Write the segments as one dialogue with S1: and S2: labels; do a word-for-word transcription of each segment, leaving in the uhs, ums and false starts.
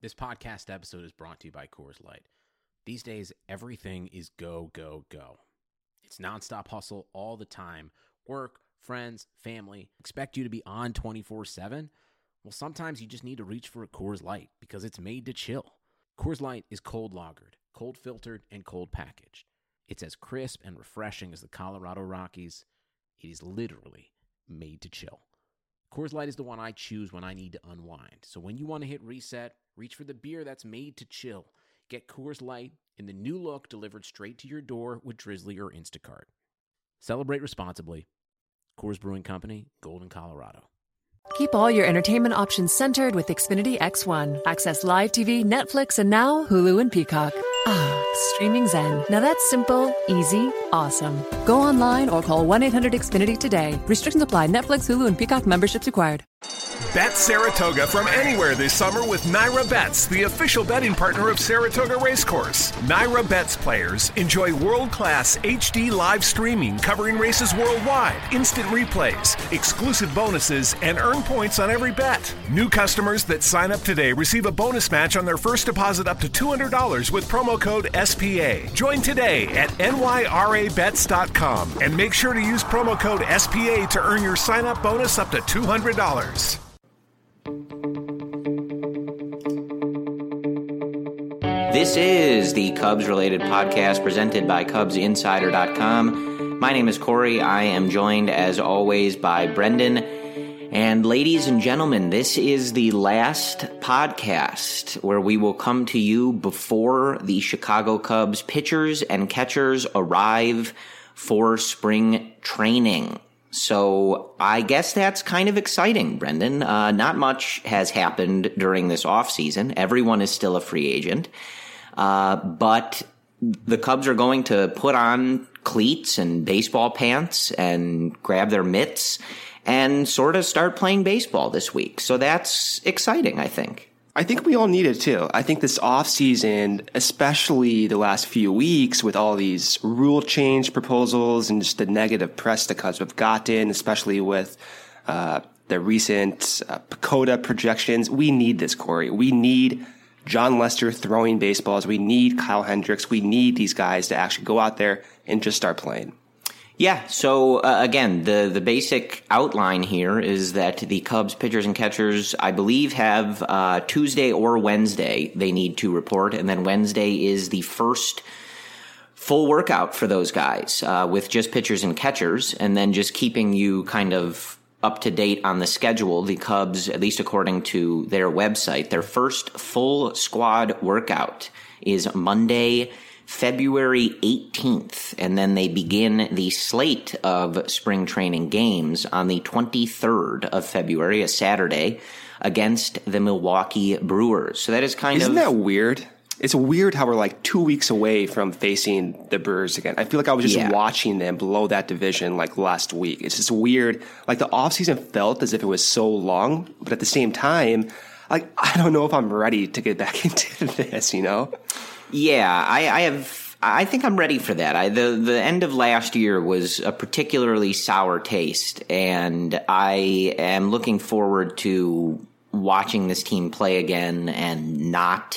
S1: This podcast episode is brought to you by Coors Light. These days, everything is go, go, go. It's nonstop hustle all the time. Work, friends, family, expect you to be on twenty-four seven. Well, sometimes you just need to reach for a Coors Light because it's made to chill. Coors Light is cold lagered, cold filtered, and cold packaged. It's as crisp and refreshing as the Colorado Rockies. It is literally made to chill. Coors Light is the one I choose when I need to unwind. So when you want to hit reset, reach for the beer that's made to chill. Get Coors Light in the new look delivered straight to your door with Drizzly or Instacart. Celebrate responsibly. Coors Brewing Company, Golden, Colorado.
S2: Keep all your entertainment options centered with Xfinity X one. Access live T V, Netflix, and now Hulu and Peacock. Ah, streaming zen. Now that's simple, easy, awesome. Go online or call one eight hundred X Finity today. Restrictions apply. Netflix, Hulu, and Peacock memberships required.
S3: Bet Saratoga from anywhere this summer with Naira Bets, the official betting partner of Saratoga Racecourse. Naira Bets players enjoy world-class H D live streaming covering races worldwide, instant replays, exclusive bonuses, and earn points on every bet. New customers that sign up today receive a bonus match on their first deposit up to two hundred dollars with promo code S P A. Join today at N Y R A bets dot com and make sure to use promo code S P A to earn your sign-up bonus up to two hundred dollars.
S4: This is the Cubs-related podcast presented by Cubs Insider dot com. My name is Corey. I am joined, as always, by Brendan. And ladies and gentlemen, this is the last podcast where we will come to you before the Chicago Cubs pitchers and catchers arrive for spring training. So I guess that's kind of exciting, Brendan. Uh, not much has happened during this offseason. Everyone is still a free agent. Uh, but the Cubs are going to put on cleats and baseball pants and grab their mitts and sort of start playing baseball this week. So that's exciting, I think.
S5: I think we all need it too. I think this offseason, especially the last few weeks with all these rule change proposals and just the negative press the Cubs have gotten, especially with uh, the recent uh, PECOTA projections, we need this, Corey. We need John Lester throwing baseballs. We need Kyle Hendricks. We need these guys to actually go out there and just start playing.
S4: Yeah, so uh, again, the, the basic outline here is that the Cubs pitchers and catchers, I believe, have uh, Tuesday or Wednesday they need to report, and then Wednesday is the first full workout for those guys uh, with just pitchers and catchers, and then just keeping you kind of up to date on the schedule. The Cubs, at least according to their website, their first full squad workout is Monday, February eighteenth, and then they begin the slate of spring training games on the twenty-third of February, a Saturday, against the Milwaukee Brewers. So that is kind
S5: Isn't
S4: of...
S5: Isn't that weird? It's weird how we're like two weeks away from facing the Brewers again. I feel like I was just
S4: yeah.
S5: watching them blow that division like last week. It's just weird. Like the offseason felt as if it was so long, but at the same time, like I don't know if I'm ready to get back into this, you know?
S4: Yeah, I, I have. I think I'm ready for that. I, the the end of last year was a particularly sour taste, and I am looking forward to watching this team play again and not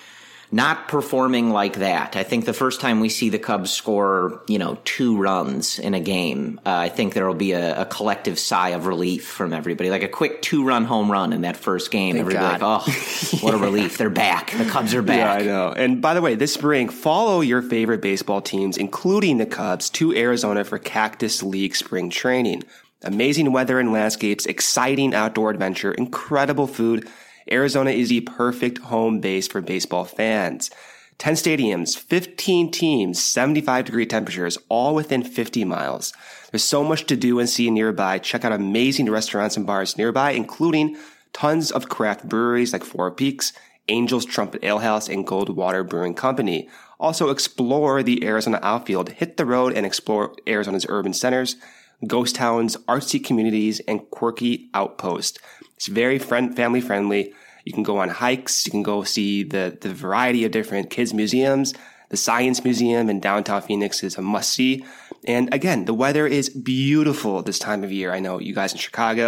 S4: not performing like that. I think the first time we see the Cubs score, you know, two runs in a game, uh, I think there will be a, a collective sigh of relief from everybody. Like a quick two-run home run in that first game.
S5: Thank
S4: Everybody like, oh, what a relief. They're back. The Cubs are back.
S5: Yeah, I know. And by the way, this spring, follow your favorite baseball teams, including the Cubs, to Arizona for Cactus League spring training. Amazing weather and landscapes, exciting outdoor adventure, incredible food. Arizona is the perfect home base for baseball fans. ten stadiums, fifteen teams, seventy-five degree temperatures, all within fifty miles. There's so much to do and see nearby. Check out amazing restaurants and bars nearby, including tons of craft breweries like Four Peaks, Angel's Trumpet Ale House, and Goldwater Brewing Company. Also explore the Arizona outfield. Hit the road and explore Arizona's urban centers, ghost towns, artsy communities, and quirky outposts. It's very friend, family friendly. You can go on hikes. You can go see the, the variety of different kids museums. The Science Museum in downtown Phoenix is a must see. And again, the weather is beautiful this time of year. I know you guys in Chicago,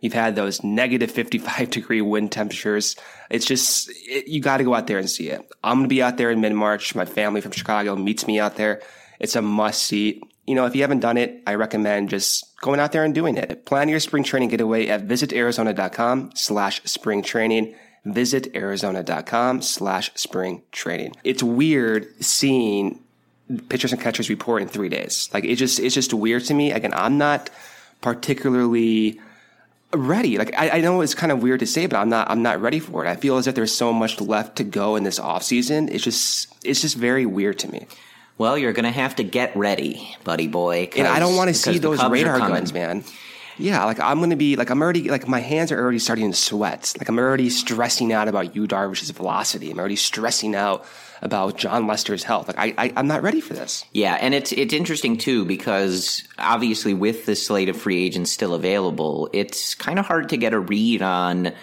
S5: You've had those negative fifty-five degree wind temperatures. It's just, it, you got to go out there and see it. I'm going to be out there in mid-March. My family from Chicago meets me out there. It's a must see. You know, if you haven't done it, I recommend just going out there and doing it. Plan your spring training getaway at visitarizona.com slash spring training. Visitarizona.com slash spring training. It's weird seeing pitchers and catchers report in three days. Like, it just, it's just weird to me. Again, I'm not particularly ready. Like, I, I know it's kind of weird to say, but I'm not, I'm not ready for it. I feel as if there's so much left to go in this offseason. It's just, it's just very weird to me.
S4: Well, you're going to have to get ready, buddy boy.
S5: And I don't want to see those radar guns, man. Yeah, like I'm going to be, like I'm already, like my hands are already starting to sweat. Like I'm already stressing out about Yu Darvish's velocity. I'm already stressing out about Jon Lester's health. Like I, I, I'm not ready for this.
S4: Yeah, and it's it's interesting too because obviously with the slate of free agents still available, it's kind of hard to get a read on,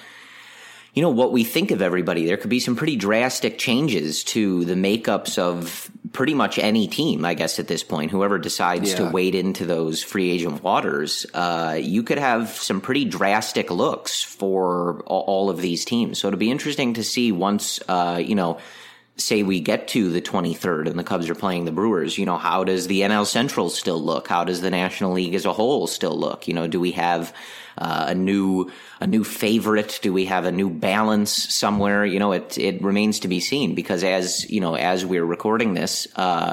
S4: you know, what we think of everybody. There could be some pretty drastic changes to the makeups of pretty much any team, I guess, at this point. Whoever decides yeah. to wade into those free agent waters, uh, you could have some pretty drastic looks for all of these teams. So it'll be interesting to see once, uh, you know, say we get to the twenty-third and the Cubs are playing the Brewers, you know, how does the N L Central still look? How does the National League as a whole still look? You know, do we have uh, a new a new favorite? Do we have a new balance somewhere? You know, it it remains to be seen because as, you know, as we're recording this uh,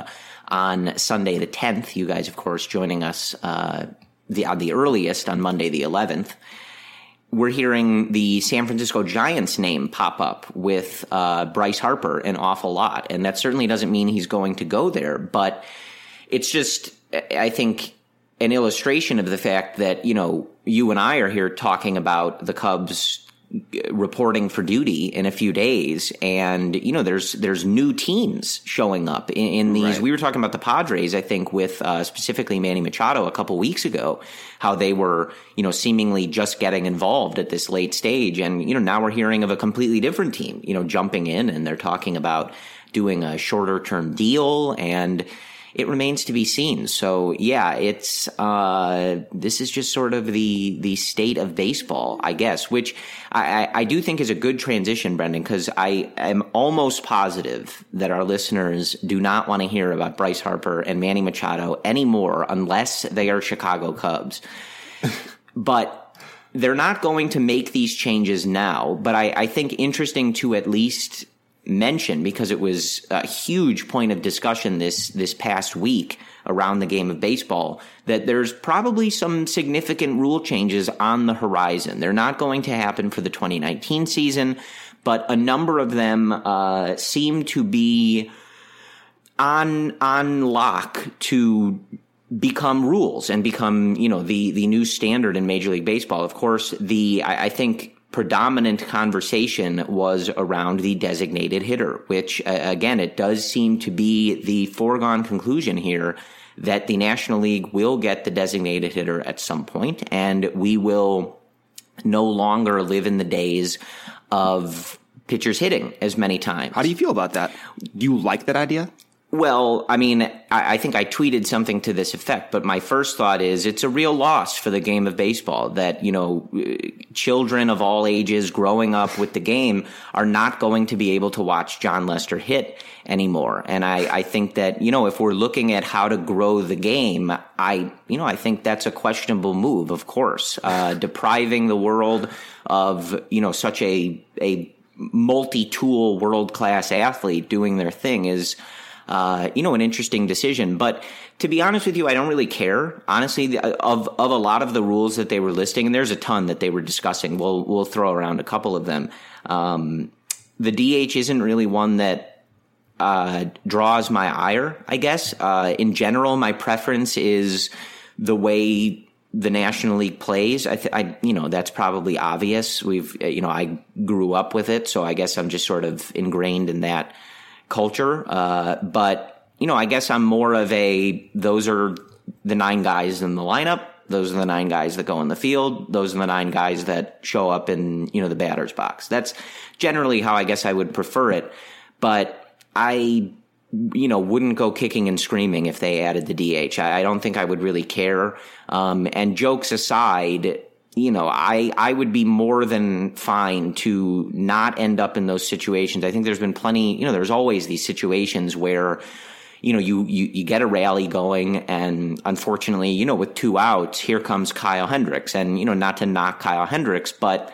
S4: on Sunday the tenth, you guys, of course, joining us uh, the on the earliest on Monday the eleventh, we're hearing the San Francisco Giants name pop up with uh, Bryce Harper an awful lot. And that certainly doesn't mean he's going to go there. But it's just, I think, an illustration of the fact that, you know, you and I are here talking about the Cubs reporting for duty in a few days. And, you know, there's there's new teams showing up in, in these. Right. We were talking about the Padres, I think, with uh, specifically Manny Machado a couple weeks ago, how they were, you know, seemingly just getting involved at this late stage. And, you know, now we're hearing of a completely different team, you know, jumping in, and they're talking about doing a shorter term deal, and it remains to be seen. So, yeah, it's uh, this is just sort of the the state of baseball, I guess, which I, I do think is a good transition, Brendan, because I am almost positive that our listeners do not want to hear about Bryce Harper and Manny Machado anymore unless they are Chicago Cubs. But they're not going to make these changes now. But I, I think interesting to at least mention, because it was a huge point of discussion this this past week around the game of baseball, that there's probably some significant rule changes on the horizon. They're not going to happen for the twenty nineteen season, but a number of them uh, seem to be on on lock to become rules and become, you know, the the new standard in Major League Baseball. Of course, the I, I think predominant conversation was around the designated hitter, which, uh, again, it does seem to be the foregone conclusion here that the National League will get the designated hitter at some point, and we will no longer live in the days of pitchers hitting as many times.
S5: How do you feel about that? Do you like that idea?
S4: Well, I mean, I, I think I tweeted something to this effect, but my first thought is it's a real loss for the game of baseball that, you know, children of all ages growing up with the game are not going to be able to watch Jon Lester hit anymore. And I, I think that, you know, if we're looking at how to grow the game, I, you know, I think that's a questionable move, of course. Uh, depriving the world of, you know, such a, a multi-tool world-class athlete doing their thing is, Uh, you know, an interesting decision. But to be honest with you, I don't really care. Honestly, of of a lot of the rules that they were listing, and there's a ton that they were discussing. We'll we'll throw around a couple of them. Um, the D H isn't really one that uh, draws my ire, I guess. Uh, in general, my preference is the way the National League plays. I, th- I, you know, that's probably obvious. We've, you know, I grew up with it, so I guess I'm just sort of ingrained in that culture. Uh, but, you know, I guess I'm more of a, those are the nine guys in the lineup. Those are the nine guys that go in the field. Those are the nine guys that show up in, you know, the batter's box. That's generally how I guess I would prefer it. But I, you know, wouldn't go kicking and screaming if they added the D H. I, I don't think I would really care. Um, and jokes aside, you know, I, I would be more than fine to not end up in those situations. I think there's been plenty, you know, there's always these situations where, you know, you, you, you get a rally going, and unfortunately, you know, with two outs, here comes Kyle Hendricks. And, you know, not to knock Kyle Hendricks, but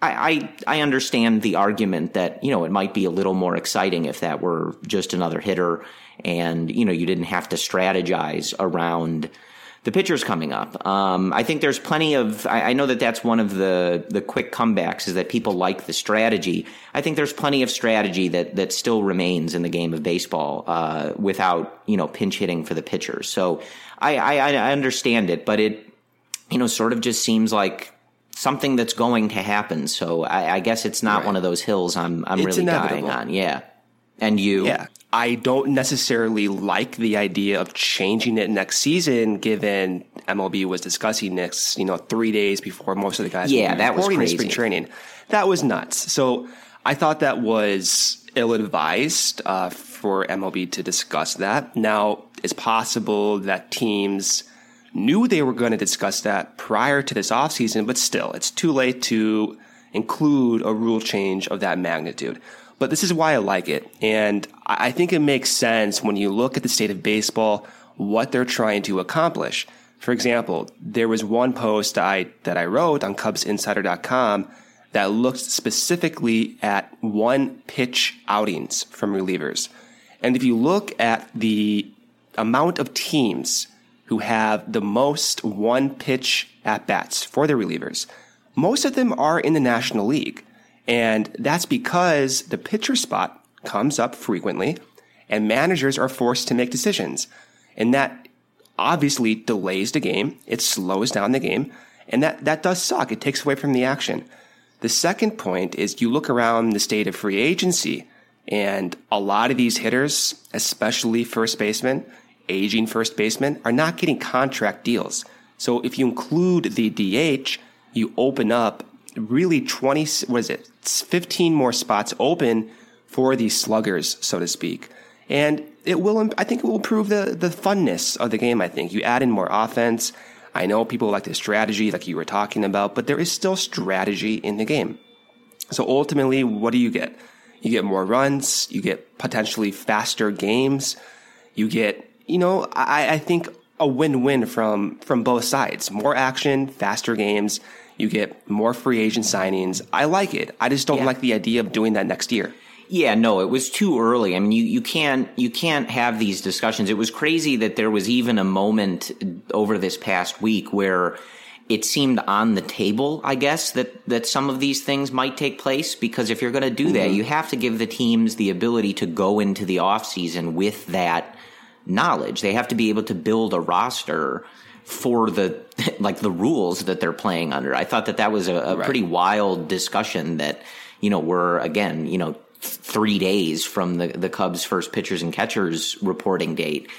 S4: I, I, I understand the argument that, you know, it might be a little more exciting if that were just another hitter and, you know, you didn't have to strategize around the pitchers coming up. Um, I think there's plenty of, I, I know that that's one of the, the quick comebacks is that people like the strategy. I think there's plenty of strategy that, that still remains in the game of baseball, uh, without, you know, pinch hitting for the pitchers. So I, I, I understand it, but it, you know, sort of just seems like something that's going to happen. So I, I guess it's not right. one of those hills I'm, I'm
S5: it's
S4: really
S5: inevitable.
S4: dying on. Yeah. And you?
S5: Yeah. I don't necessarily like the idea of changing it next season, given M L B was discussing next, you know, three days before most of the guys
S4: yeah,
S5: were
S4: that was crazy.
S5: spring training. That was nuts. So I thought that was ill-advised uh, for M L B to discuss that. Now, it's possible that teams knew they were going to discuss that prior to this offseason, but still, it's too late to include a rule change of that magnitude. But this is why I like it. And I think it makes sense when you look at the state of baseball, what they're trying to accomplish. For example, there was one post I, that I wrote on Cubs Insider dot com that looked specifically at one pitch outings from relievers. And if you look at the amount of teams who have the most one pitch at bats for their relievers, most of them are in the National League. And that's because the pitcher spot comes up frequently and managers are forced to make decisions. And that obviously delays the game. It slows down the game. And that, that does suck. It takes away from the action. The second point is you look around the state of free agency, and a lot of these hitters, especially first basemen, aging first basemen, are not getting contract deals. So if you include the D H, you open up really twenty, what is it, fifteen more spots open for these sluggers, so to speak. And it will, I think it will improve the, the funness of the game, I think. You add in more offense. I know people like the strategy like you were talking about, but there is still strategy in the game. So ultimately, what do you get? You get more runs. You get potentially faster games. You get, you know, I, I think a win-win from, from both sides. More action, faster games. You get more free agent signings. I like it. I just don't yeah. like the idea of doing that next year.
S4: Yeah, no, it was too early. I mean, you, you can't you can't have these discussions. It was crazy that there was even a moment over this past week where it seemed on the table, I guess, that, that some of these things might take place. Because if you're going to do mm-hmm. that, you have to give the teams the ability to go into the offseason with that knowledge. They have to be able to build a roster for the like the rules that they're playing under. I thought that that was a, a right. pretty wild discussion that, you know, we're, again, you know, three days from the, the Cubs' first pitchers and catchers reporting date.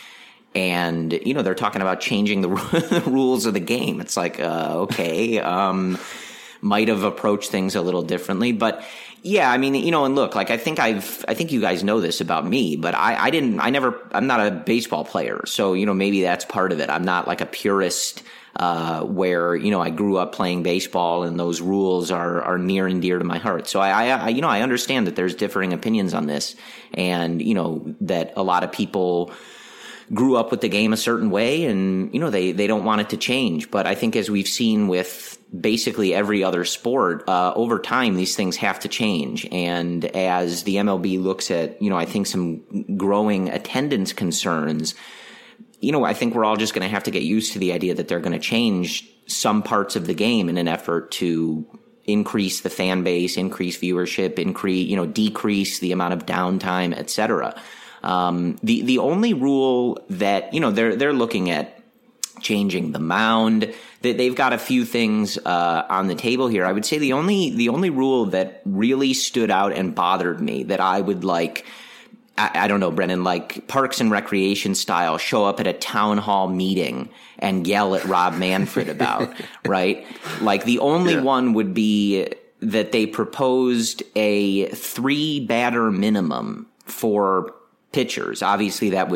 S4: And, you know, they're talking about changing the, the rules of the game. It's like, uh, okay, um, might have approached things a little differently. But yeah, I mean, you know, and look, like I think I've, I think you guys know this about me, but I, I didn't, I never, I'm not a baseball player. So, you know, maybe that's part of it. I'm not like a purist, uh, where, you know, I grew up playing baseball and those rules are, are near and dear to my heart. So I, I, you know, I understand that there's differing opinions on this and, you know, that a lot of people grew up with the game a certain way and, you know, they, they don't want it to change. But I think as we've seen with basically every other sport, uh, over time, these things have to change. And as the M L B looks at, you know, I think some growing attendance concerns, you know, I think we're all just going to have to get used to the idea that they're going to change some parts of the game in an effort to increase the fan base, increase viewership, increase, you know, decrease the amount of downtime, et cetera. Um, the, the only rule that, you know, they're, they're looking at changing the mound, that they've got a few things, uh, on the table here. I would say the only, the only rule that really stood out and bothered me that I would like, I, I don't know, Brendan, like Parks and Recreation style, show up at a town hall meeting and yell at Rob Manfred about, right? Like the only yeah. one would be that they proposed a three batter minimum for pitchers. Obviously that would,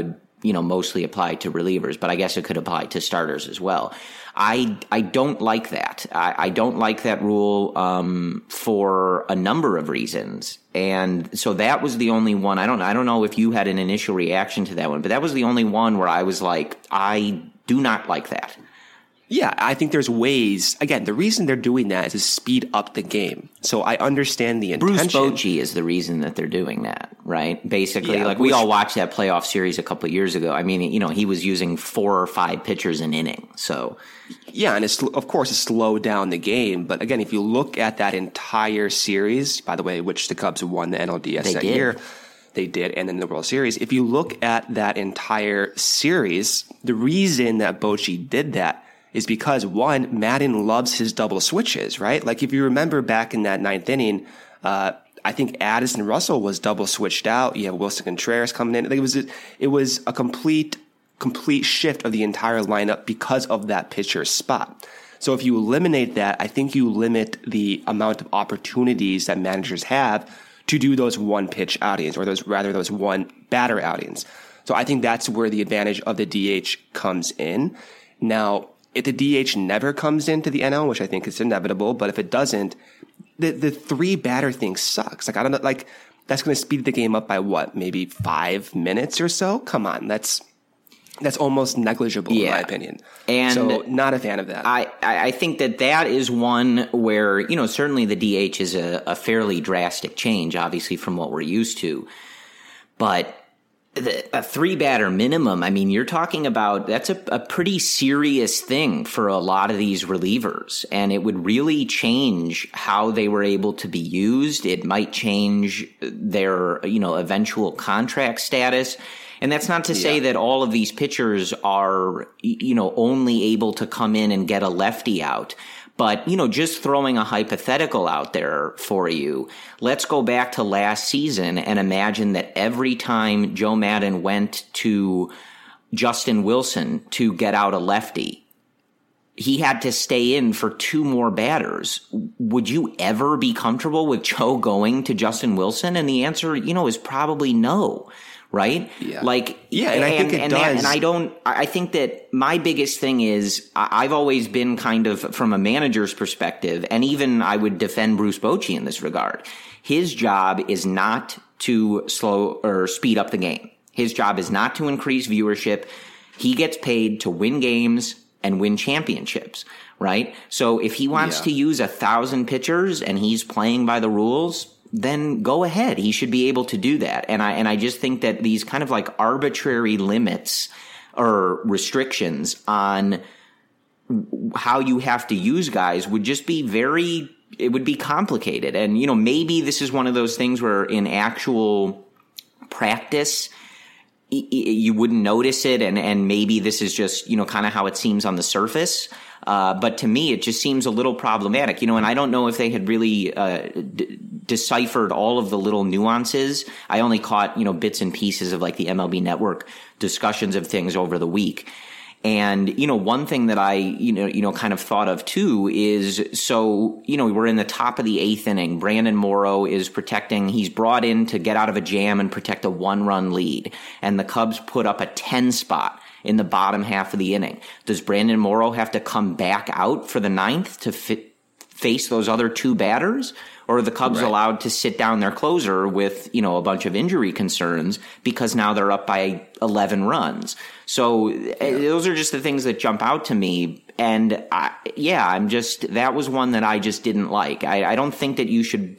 S4: you know, mostly apply to relievers, but I guess it could apply to starters as well. I I don't like that. I, I don't like that rule um, for a number of reasons, and so that was the only one. I don't I don't know if you had an initial reaction to that one, but that was the only one where I was like, I do not like that.
S5: Yeah, I think there's ways. Again, the reason they're doing that is to speed up the game. So I understand the intention.
S4: Bruce Bochy is the reason that they're doing that, right? Basically,
S5: Yeah,
S4: like we
S5: which-
S4: all watched that playoff series a couple of years ago. I mean, you know, he was using four or five pitchers an inning. So
S5: Yeah, and it's, of course, it slowed down the game. But again, if you look at that entire series, by the way, which the Cubs won the N L D S
S4: They
S5: that
S4: did.
S5: year, they did, and then the World Series. If you look at that entire series, the reason that Bochy did that is because, one, Madden loves his double switches, right? Like if you remember back in that ninth inning, uh, I think Addison Russell was double switched out. You have Wilson Contreras coming in. It was a, it was a complete complete shift of the entire lineup because of that pitcher's spot. So if you eliminate that, I think you limit the amount of opportunities that managers have to do those one pitch outings, or those rather those one batter outings. So I think that's where the advantage of the D H comes in. Now, if the D H never comes into the N L, which I think is inevitable, but if it doesn't, the the three batter thing sucks. Like I don't know, like that's going to speed the game up by what, maybe five minutes or so? Come on, that's that's almost negligible
S4: Yeah.
S5: in my opinion.
S4: And
S5: so not a fan of that.
S4: I, I think that that is one where, you know, certainly the D H is a, a fairly drastic change, obviously, from what we're used to. But the, a three batter minimum, I mean, you're talking about that's a, a pretty serious thing for a lot of these relievers. And it would really change how they were able to be used. It might change their, you know, eventual contract status. And that's not to say
S5: Yeah.
S4: that all of these pitchers are, you know, only able to come in and get a lefty out. But, you know, just throwing a hypothetical out there for you, let's go back to last season and imagine that every time Joe Maddon went to Justin Wilson to get out a lefty, he had to stay in for two more batters. Would you ever be comfortable with Joe going to Justin Wilson? And the answer, you know, is probably no. Right?
S5: Yeah.
S4: Like,
S5: Yeah, and I think it
S4: and
S5: does.
S4: That, and I don't, I think that my biggest thing is I- I've always been kind of from a manager's perspective, and even I would defend Bruce Bochy in this regard. His job is not to slow or speed up the game. His job is not to increase viewership. He gets paid to win games and win championships, right? So if he wants
S5: Yeah.
S4: to use a thousand pitchers and he's playing by the rules, then go ahead. He should be able to do that. And I, and I just think that these kind of like arbitrary limits or restrictions on how you have to use guys would just be very, it would be complicated. And, you know, maybe this is one of those things where in actual practice, you wouldn't notice it. And, and maybe this is just, you know, kind of how it seems on the surface. Uh, but to me, it just seems a little problematic, you know, and I don't know if they had really uh, d- deciphered all of the little nuances. I only caught, you know, bits and pieces of like the M L B Network discussions of things over the week. And, you know, one thing that I, you know, you know, kind of thought of too is, so, you know, we're in the top of the eighth inning. Brandon Morrow is protecting, he's brought in to get out of a jam and protect a one run lead. And the Cubs put up a ten spot in the bottom half of the inning. Does Brandon Morrow have to come back out for the ninth to fit, face those other two batters? Or are the Cubs
S5: Right.
S4: allowed to sit down their closer with, you know, a bunch of injury concerns because now they're up by eleven runs? So yeah. Those are just the things that jump out to me. And I, yeah, I'm just, that was one that I just didn't like. I, I don't think that you should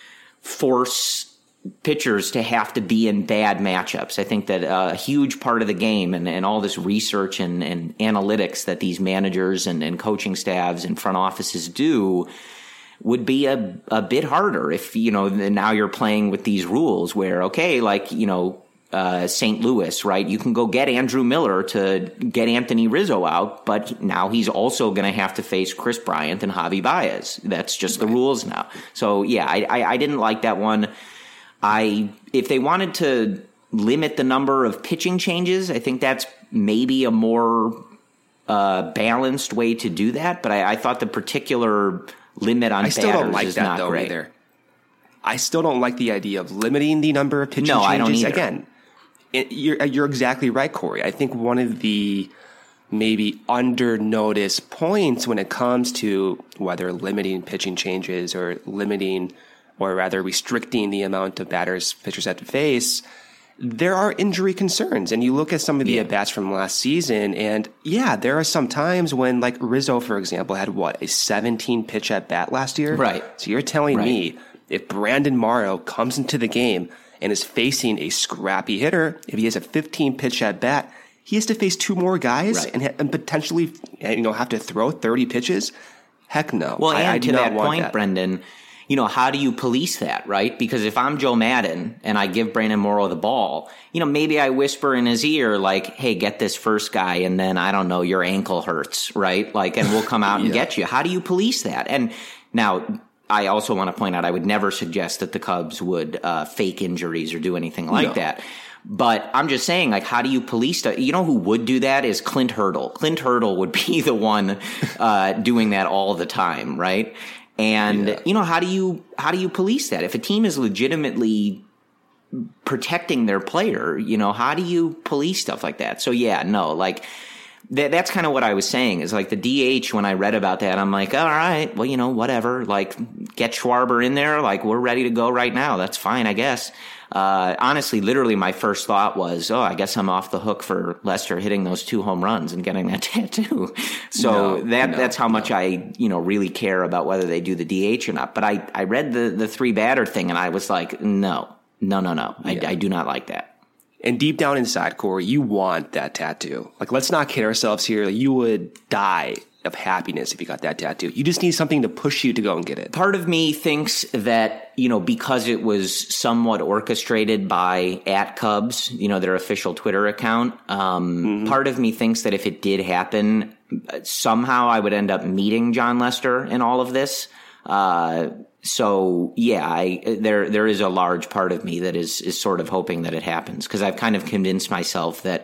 S4: force pitchers to have to be in bad matchups. I think that a huge part of the game and, and all this research and, and analytics that these managers and, and coaching staffs and front offices do would be a, a bit harder if, you know, now you're playing with these rules where, okay, like, you know, uh, Saint Louis, right? You can go get Andrew Miller to get Anthony Rizzo out, but now he's also going to have to face Chris Bryant and Javi Baez. That's just right. The rules now. So yeah, I, I, I didn't like that one. I, if they wanted to limit the number of pitching changes, I think that's maybe a more uh, balanced way to do that. But I, I thought the particular limit on
S5: I still
S4: batters
S5: don't like
S4: is
S5: that
S4: not
S5: though
S4: great.
S5: Either. I still don't like the idea of limiting the number of pitching
S4: no,
S5: changes.
S4: I don't either.
S5: Again, it, you're, you're exactly right, Corey. I think one of the maybe under-noticed points when it comes to whether limiting pitching changes or limiting or rather restricting the amount of batters pitchers have to face, there are injury concerns. And you look at some of the yeah. at-bats from last season, and yeah, there are some times when, like Rizzo, for example, had what, a seventeen pitch at-bat last year?
S4: Right.
S5: So you're telling
S4: right.
S5: me if Brandon Morrow comes into the game and is facing a scrappy hitter, if he has a fifteen pitch at-bat, he has to face two more guys
S4: right.
S5: and, and potentially, you know, have to throw thirty pitches? Heck no.
S4: Well,
S5: I,
S4: and
S5: I
S4: to that point,
S5: that.
S4: Brendan, you know, how do you police that, right? Because if I'm Joe Madden and I give Brandon Morrow the ball, you know, maybe I whisper in his ear like, hey, get this first guy, and then, I don't know, your ankle hurts, right? Like, and we'll come out and yeah. get you. How do you police that? And now, I also want to point out, I would never suggest that the Cubs would uh, fake injuries or do anything like no. that. But I'm just saying, like, how do you police that? You know who would do that is Clint Hurdle. Clint Hurdle would be the one uh, doing that all the time, right? And, yeah. you know, how do you how do you police that? If a team is legitimately protecting their player, you know, how do you police stuff like that? So, yeah, no, like, th- that's kind of what I was saying is like the D H, when I read about that, I'm like, all right, well, you know, whatever. Like, get Schwarber in there. Like, we're ready to go right now. That's fine, I guess. Uh, honestly, literally my first thought was, oh, I guess I'm off the hook for Lester hitting those two home runs and getting that tattoo. So no, that, no, that's how much no. I, you know, really care about whether they do the D H or not. But I, I read the, the three batter thing and I was like, no, no, no, no. Yeah. I, I do not like that.
S5: And deep down inside, Corey, you want that tattoo. Like, let's not kid ourselves here. You would die of happiness if you got that tattoo. You just need something to push you to go and get it.
S4: Part of me thinks that, you know, because it was somewhat orchestrated by at Cubs, you know, their official Twitter account, um, mm-hmm. part of me thinks that if it did happen, somehow I would end up meeting Jon Lester in all of this. Uh, so yeah, I, there, there is a large part of me that is, is sort of hoping that it happens, because I've kind of convinced myself that,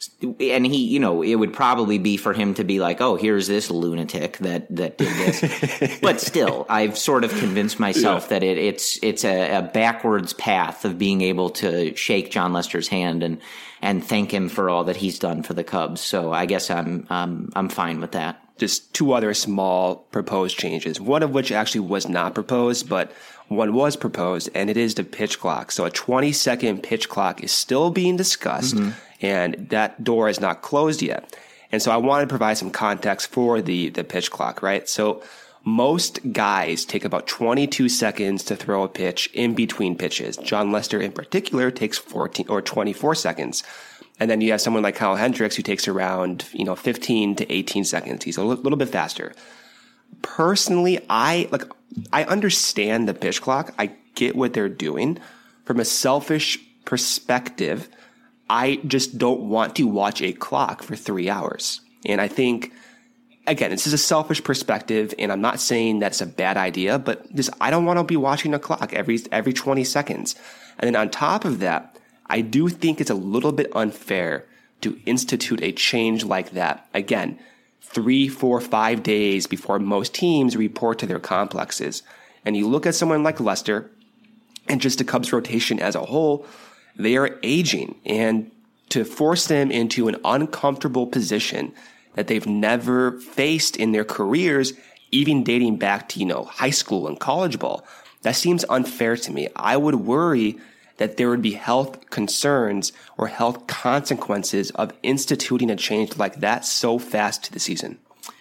S4: and he, you know, it would probably be for him to be like, oh, here's this lunatic that, that did this. But still, I've sort of convinced myself yeah. that it, it's, it's a, a backwards path of being able to shake Jon Lester's hand and, and thank him for all that he's done for the Cubs. So I guess I'm, um, I'm fine with that.
S5: Just two other small proposed changes, one of which actually was not proposed, but one was proposed, and it is the pitch clock. So a twenty second pitch clock is still being discussed, mm-hmm. and that door is not closed yet. And so I want to provide some context for the, the pitch clock, right? So most guys take about twenty-two seconds to throw a pitch in between pitches. Jon Lester in particular takes fourteen or twenty-four seconds. And then you have someone like Kyle Hendricks who takes around, you know, fifteen to eighteen seconds. He's a l- little bit faster. Personally, I like, I understand the pitch clock. I get what they're doing. From a selfish perspective, I just don't want to watch a clock for three hours. And I think, again, this is a selfish perspective, and I'm not saying that's a bad idea, but just, I don't want to be watching a clock every, every twenty seconds. And then on top of that, I do think it's a little bit unfair to institute a change like that. Again, three, four, five days before most teams report to their complexes. And you look at someone like Lester and just the Cubs rotation as a whole, they are aging. And to force them into an uncomfortable position that they've never faced in their careers, even dating back to, you know, high school and college ball, that seems unfair to me. I would worry that there would be health concerns or health consequences of instituting a change like that so fast to the season.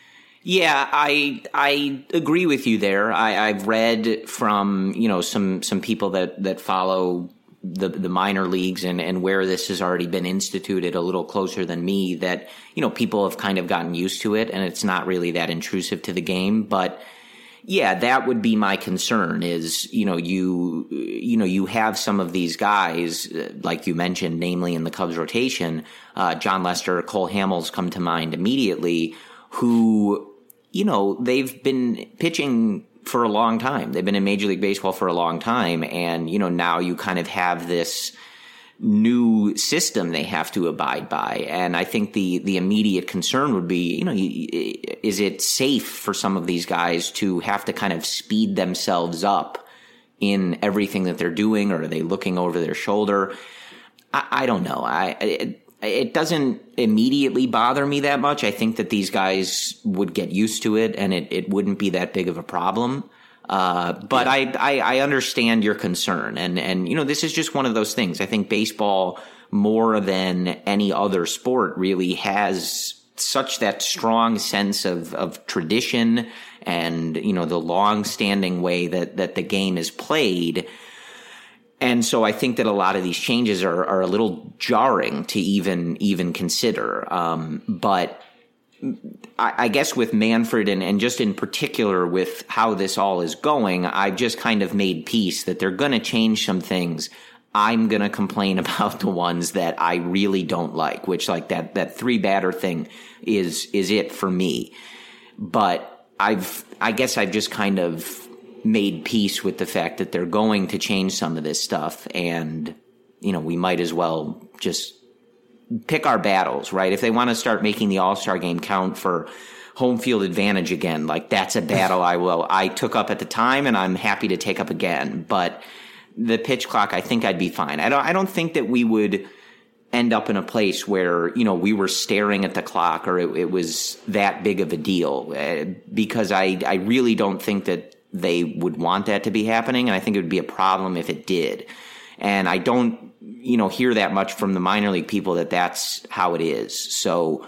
S4: Yeah, I I agree with you there. I, I've read from, you know, some some people that, that follow the the minor leagues and, and where this has already been instituted a little closer than me, that, you know, people have kind of gotten used to it and it's not really that intrusive to the game. But yeah, that would be my concern is, you know, you, you know, you have some of these guys, like you mentioned, namely in the Cubs rotation, uh, Jon Lester, Cole Hamels come to mind immediately, who, you know, they've been pitching for a long time. They've been in Major League Baseball for a long time. And, you know, now you kind of have this new system they have to abide by. And I think the, the immediate concern would be, you know, is it safe for some of these guys to have to kind of speed themselves up in everything that they're doing, or are they looking over their shoulder? I, I don't know. I it, it doesn't immediately bother me that much. I think that these guys would get used to it, and it, it wouldn't be that big of a problem. Uh, but yeah. I, I I understand your concern, and and you know, this is just one of those things. I think baseball, more than any other sport, really has such that strong sense of of tradition and, you know, the long-standing way that that the game is played. And so I think that a lot of these changes are, are a little jarring to even even consider. Um, but I, I guess with Manfred and, and just in particular with how this all is going, I've just kind of made peace that they're going to change some things. I'm going to complain about the ones that I really don't like, which like that, that three batter thing is is it for me. But I've I guess I've just kind of made peace with the fact that they're going to change some of this stuff, and, you know, we might as well just pick our battles, right? If they want to start making the All-Star game count for home field advantage again, like, that's a battle I will I took up at the time, and I'm happy to take up again. But the pitch clock, I think I'd be fine. I don't I don't think that we would end up in a place where, you know, we were staring at the clock or it, it was that big of a deal, uh, because I I really don't think that they would want that to be happening, and I think it would be a problem if it did. And I don't, you know, hear that much from the minor league people that that's how it is. So,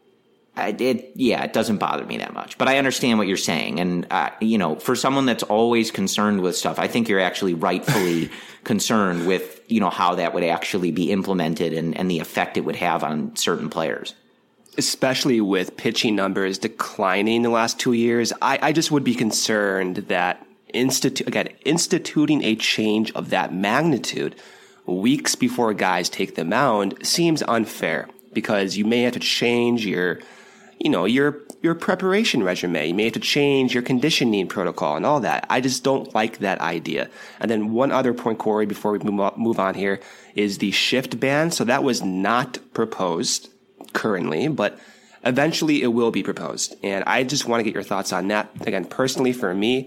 S4: it yeah, it doesn't bother me that much. But I understand what you're saying, and uh, you know, for someone that's always concerned with stuff, I think you're actually rightfully concerned with, you know, how that would actually be implemented and, and the effect it would have on certain players.
S5: Especially with pitching numbers declining the last two years, I, I just would be concerned that institu- again, instituting a change of that magnitude weeks before guys take the mound seems unfair, because you may have to change your, you know, your your preparation regimen. You may have to change your conditioning protocol and all that. I just don't like that idea. And then one other point, Corey, before we move on here, is the shift ban. So that was not proposed currently, but eventually it will be proposed. And I just want to get your thoughts on that. Again, personally for me,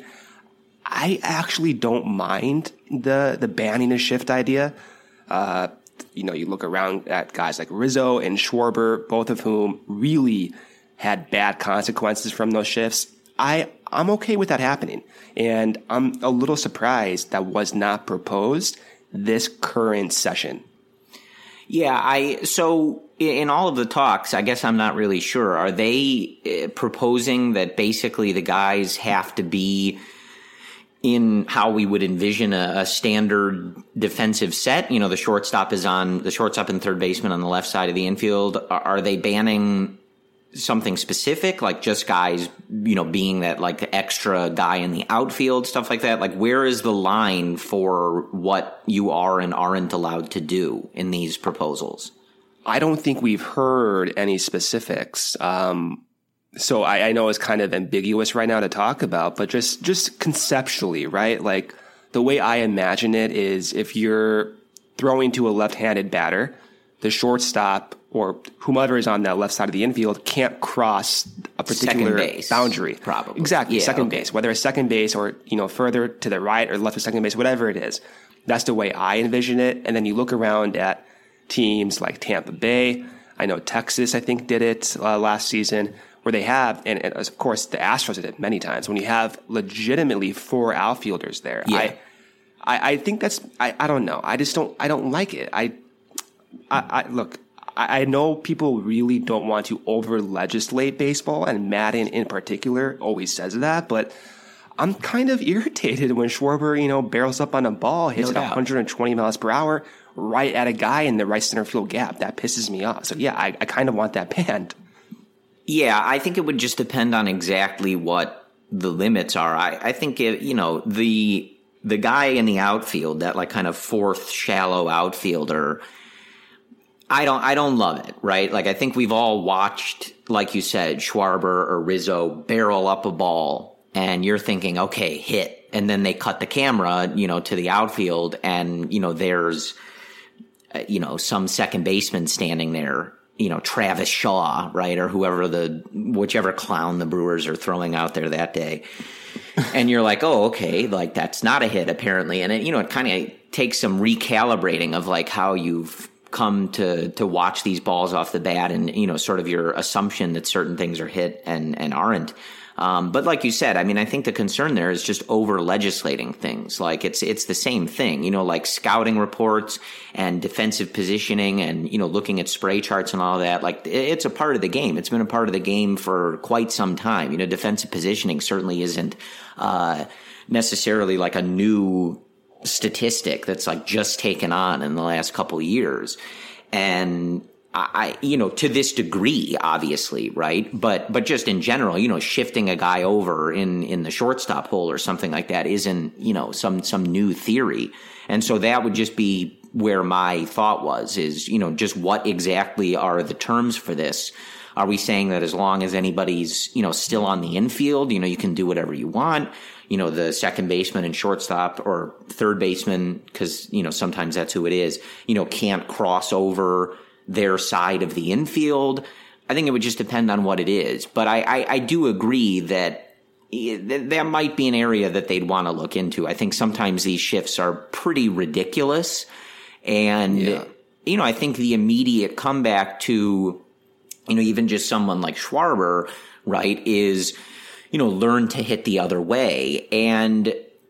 S5: I actually don't mind the the banning a shift idea. Uh, you know, you look around at guys like Rizzo and Schwarber, both of whom really had bad consequences from those shifts. I, I'm okay with that happening. And I'm a little surprised that was not proposed this current session.
S4: Yeah, I so in all of the talks, I guess I'm not really sure. Are they proposing that basically the guys have to be in how we would envision a, a standard defensive set? You know, the shortstop is on the shortstop and third baseman on the left side of the infield. Are, are they banning something specific, like just guys, you know, being that like the extra guy in the outfield, stuff like that? Like, where is the line for what you are and aren't allowed to do in these proposals?
S5: I don't think we've heard any specifics. Um, so I, I know it's kind of ambiguous right now to talk about, but just, just conceptually, right? Like, the way I imagine it is if you're throwing to a left-handed batter, the shortstop or whomever is on that left side of the infield can't cross a particular
S4: base,
S5: boundary.
S4: Probably.
S5: Exactly.
S4: Yeah,
S5: second
S4: okay.
S5: base, whether it's second base or, you know, further to the right or left of second base, whatever it is. That's the way I envision it. And then you look around at teams like Tampa Bay. I know Texas, I think, did it uh, last season, where they have, and, and of course the Astros did it many times, when you have legitimately four outfielders there.
S4: Yeah.
S5: I, I, I think that's, I, I don't know. I just don't, I don't like it. I, I, I look, I, I know people really don't want to over legislate baseball, and Madden in particular always says that, but I'm kind of irritated when Schwarber, you know, barrels up on a ball, hits
S4: No
S5: it one hundred twenty miles per hour right at a guy in the right center field gap. That pisses me off. So yeah, I, I kind of want that banned.
S4: Yeah, I think it would just depend on exactly what the limits are. I, I think, it, you know, the the guy in the outfield, that like kind of fourth shallow outfielder, I don't I don't love it, right? Like, I think we've all watched, like you said, Schwarber or Rizzo barrel up a ball, and you're thinking, okay, hit. And then they cut the camera, you know, to the outfield, and, you know, there's, uh, you know, some second baseman standing there, you know, Travis Shaw, right? Or whoever the, whichever clown the Brewers are throwing out there that day. And you're like, oh, okay, like, that's not a hit apparently. And it, you know, it kind of takes some recalibrating of like how you've come to to watch these balls off the bat and, you know, sort of your assumption that certain things are hit and, and aren't. Um, but like you said, I mean, I think the concern there is just over legislating things. Like it's it's the same thing, you know, like scouting reports and defensive positioning and, you know, looking at spray charts and all that. Like it's a part of the game. It's been a part of the game for quite some time. You know, defensive positioning certainly isn't uh, necessarily like a new statistic that's like just taken on in the last couple of years. And I, you know, to this degree, obviously, right? But, but just in general, you know, shifting a guy over in, in the shortstop hole or something like that isn't, you know, some, some new theory. And so that would just be where my thought was is, you know, just what exactly are the terms for this? Are we saying that as long as anybody's, you know, still on the infield, you know, you can do whatever you want? You know, the second baseman and shortstop or third baseman, because, you know, sometimes that's who it is, you know, can't cross over their side of the infield. I think it would just depend on what it is. But I, I, I do agree that that might be an area that they'd want to look into. I think sometimes these shifts are pretty ridiculous. And, yeah. you know, I think the immediate comeback to, you know, even just someone like Schwarber, right, is, you know, learn to hit the other way. And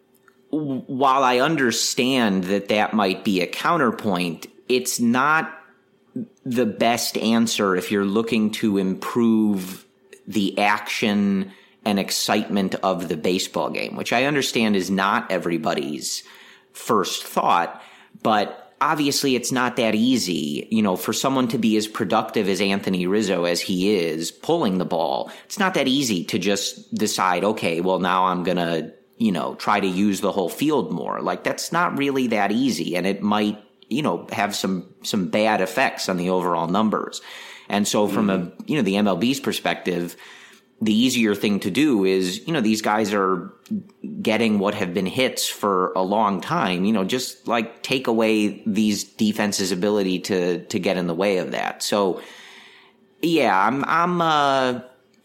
S4: while I understand that that might be a counterpoint, it's not the best answer if you're looking to improve the action and excitement of the baseball game, which I understand is not everybody's first thought, but obviously it's not that easy, you know, for someone to be as productive as Anthony Rizzo as he is pulling the ball. It's not that easy to just decide, okay, well, now I'm going to, you know, try to use the whole field more. Like that's not really that easy, and it might, you know, have some, some bad effects on the overall numbers. And so from mm-hmm. a, you know, the M L B's perspective, the easier thing to do is, you know, these guys are getting what have been hits for a long time, you know, just like take away these defenses' ability to, to get in the way of that. So yeah, I'm, I'm, uh,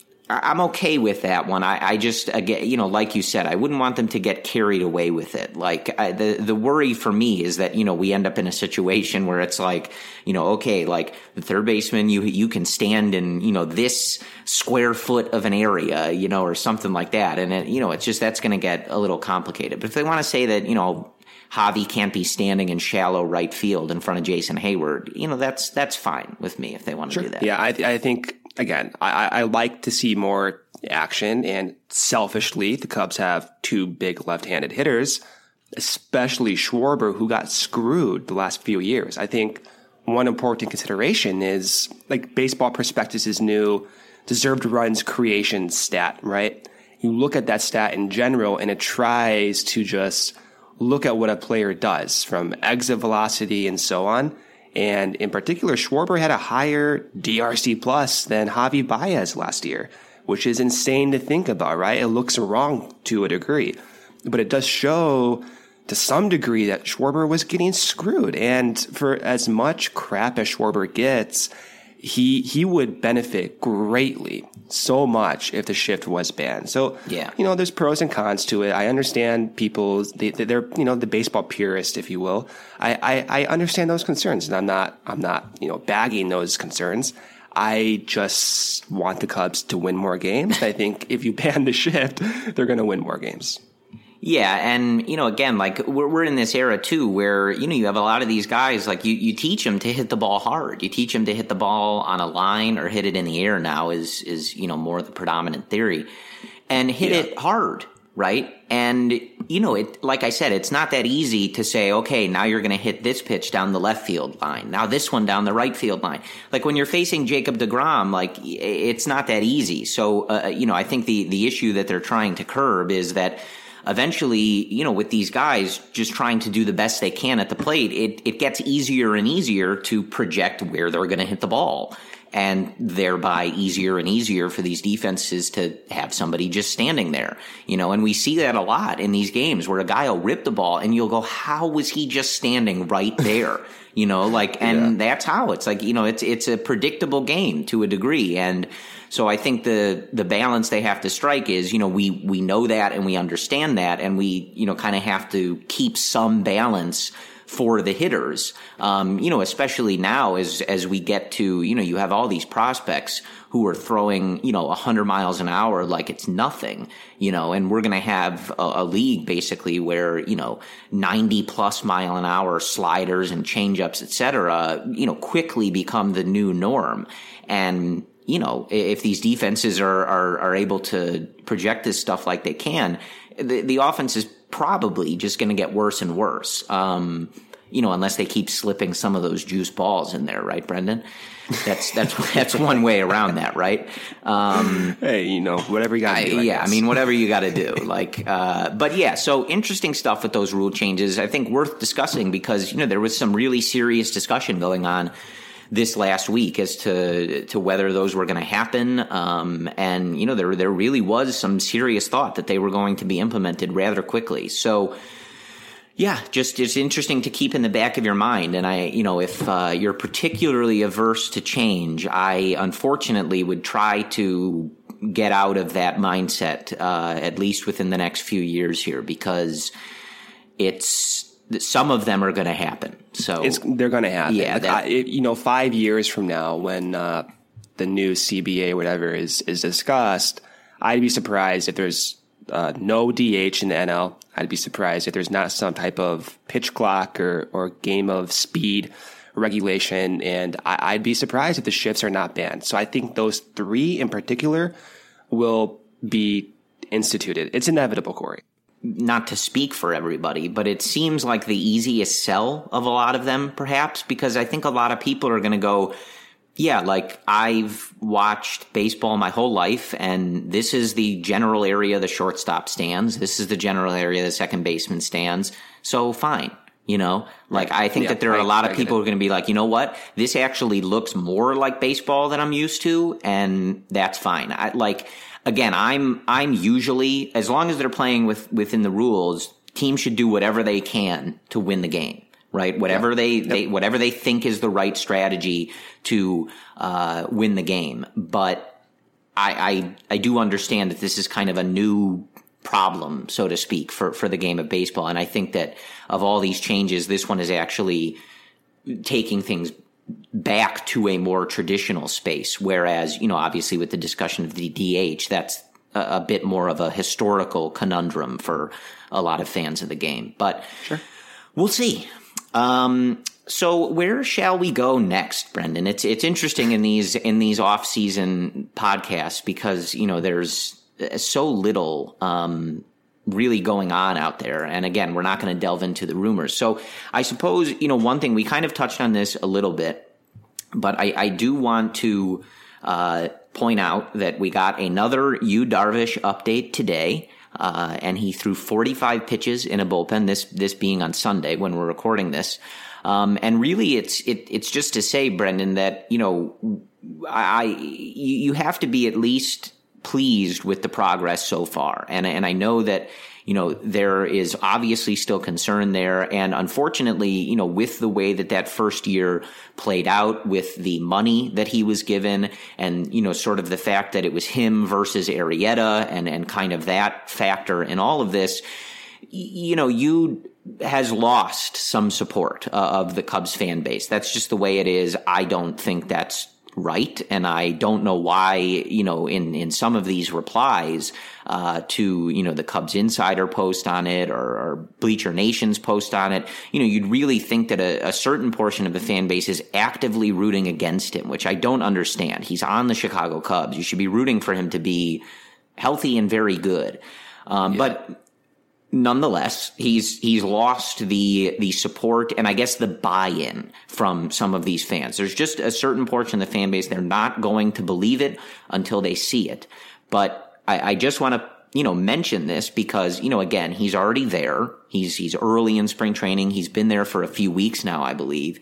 S4: I'm okay with that one. I, I just, again, you know, like you said, I wouldn't want them to get carried away with it. Like I, the the worry for me is that, you know, we end up in a situation where it's like, you know, okay, like the third baseman, you you can stand in, you know, this square foot of an area, you know, or something like that, and it, you know, it's just that's going to get a little complicated. But if they want to say that, you know, Javi can't be standing in shallow right field in front of Jason Hayward, you know, that's that's fine with me if they want to
S5: sure.
S4: do that.
S5: Yeah, I I think. Again, I, I like to see more action, and selfishly, the Cubs have two big left-handed hitters, especially Schwarber, who got screwed the last few years. I think one important consideration is, like, Baseball Prospectus' new deserved runs creation stat, right? You look at that stat in general, and it tries to just look at what a player does, from exit velocity and so on. And in particular, Schwarber had a higher D R C plus than Javi Baez last year, which is insane to think about, right? It looks wrong to a degree, but it does show to some degree that Schwarber was getting screwed. And for as much crap as Schwarber gets, he he would benefit greatly, so much, if the shift was banned. So,
S4: yeah.
S5: you know, there's pros and cons to it. I understand people, they, they're, you know, the baseball purist, if you will. I, I, I understand those concerns, and I'm not, I'm not, you know, bagging those concerns. I just want the Cubs to win more games. I think if you ban the shift, they're going to win more games.
S4: Yeah, and, you know, again, like, we're we're in this era, too, where, you know, you have a lot of these guys, like, you, you teach them to hit the ball hard. You teach them to hit the ball on a line or hit it in the air now is, is you know, more the predominant theory. And hit
S5: yeah.
S4: it hard, right? And, you know, it like I said, it's not that easy to say, okay, now you're going to hit this pitch down the left field line. Now this one down the right field line. Like, when you're facing Jacob deGrom, like, it's not that easy. So, uh, you know, I think the, the issue that they're trying to curb is that eventually, you know, with these guys just trying to do the best they can at the plate, it, it gets easier and easier to project where they're going to hit the ball, and thereby easier and easier for these defenses to have somebody just standing there, you know, and we see that a lot in these games where a guy will rip the ball and you'll go, how was he just standing right there? You know, like, and yeah. that's how it's like, you know, it's, it's a predictable game to a degree. And so I think the, the balance they have to strike is, you know, we, we know that and we understand that, and we, you know, kind of have to keep some balance for the hitters. Um, you know, especially now as, as we get to, you know, you have all these prospects who are throwing, you know, a hundred miles an hour like it's nothing, you know, and we're going to have a, a league basically where, you know, ninety plus mile an hour sliders and changeups, et cetera, you know, quickly become the new norm. And, you know, if these defenses are, are, are able to project this stuff like they can, the, the offense is probably just going to get worse and worse. Um, you know, unless they keep slipping some of those juice balls in there, right, Brendan? That's that's that's one way around that, right? Um,
S5: hey, you know, whatever you got to do. I
S4: yeah,
S5: guess.
S4: I mean, whatever you got to do. Like, uh, but yeah, so interesting stuff with those rule changes. I think worth discussing because you know there was some really serious discussion going on this last week as to to whether those were going to happen, um, and you know there there really was some serious thought that they were going to be implemented rather quickly. So. Yeah, just it's interesting to keep in the back of your mind. And I, you know, if uh, you're particularly averse to change, I unfortunately would try to get out of that mindset, uh, at least within the next few years here, because it's some of them are going to happen. So
S5: it's, they're going to happen.
S4: Yeah,
S5: like
S4: that,
S5: I, it, you know, five years from now, when uh, the new C B A, whatever, is is discussed, I'd be surprised if there's uh, no D H in the N L. I'd be surprised if there's not some type of pitch clock or, or game of speed regulation. And I, I'd be surprised if the shifts are not banned. So I think those three in particular will be instituted. It's inevitable, Corey.
S4: Not to speak for everybody, but it seems like the easiest sell of a lot of them, perhaps, because I think a lot of people are going to go, yeah, like I've watched baseball my whole life, and this is the general area the shortstop stands. This is the general area the second baseman stands. So fine, you know, like I think yeah, that there are a lot of people who are going to be like, you know what, this actually looks more like baseball than I'm used to, and that's fine. I like again, I'm I'm usually, as long as they're playing with within the rules, teams should do whatever they can to win the game. Right, whatever yeah. they, yep. they whatever they think is the right strategy to uh, win the game. But I, I I do understand that this is kind of a new problem, so to speak, for, for the game of baseball. And I think that of all these changes, this one is actually taking things back to a more traditional space. Whereas, you know, obviously with the discussion of the D H, that's a, a bit more of a historical conundrum for a lot of fans of the game. But
S5: sure.
S4: We'll see. Um, so where shall we go next, Brendan? It's, it's interesting in these, in these off season podcasts because, you know, there's so little, um, really going on out there. And again, we're not going to delve into the rumors. So I suppose, you know, one thing we kind of touched on this a little bit, but I, I do want to, uh, point out that we got another Yu Darvish update today. Uh, and he threw forty-five pitches in a bullpen, this, this being on Sunday when we're recording this. Um, and really it's, it, it's just to say, Brendan, that, you know, I, you, you have to be at least pleased with the progress so far. And, and I know that, you know, there is obviously still concern there. And unfortunately, you know, with the way that that first year played out, with the money that he was given and, you know, sort of the fact that it was him versus Arrieta and, and kind of that factor in all of this, you know, you has lost some support uh, of the Cubs fan base. That's just the way it is. I don't think that's right. And I don't know why, you know, in, in some of these replies uh, to, you know, the Cubs Insider post on it or, or Bleacher Nation's post on it, you know, you'd really think that a, a certain portion of the fan base is actively rooting against him, which I don't understand. He's on the Chicago Cubs. You should be rooting for him to be healthy and very good. Um, yeah. But nonetheless, he's he's lost the the support and I guess the buy-in from some of these fans. There's just a certain portion of the fan base, they're not going to believe it until they see it. But I, I just want to, you know, mention this because, you know, again, he's already there. He's he's early in spring training. He's been there for a few weeks now, I believe.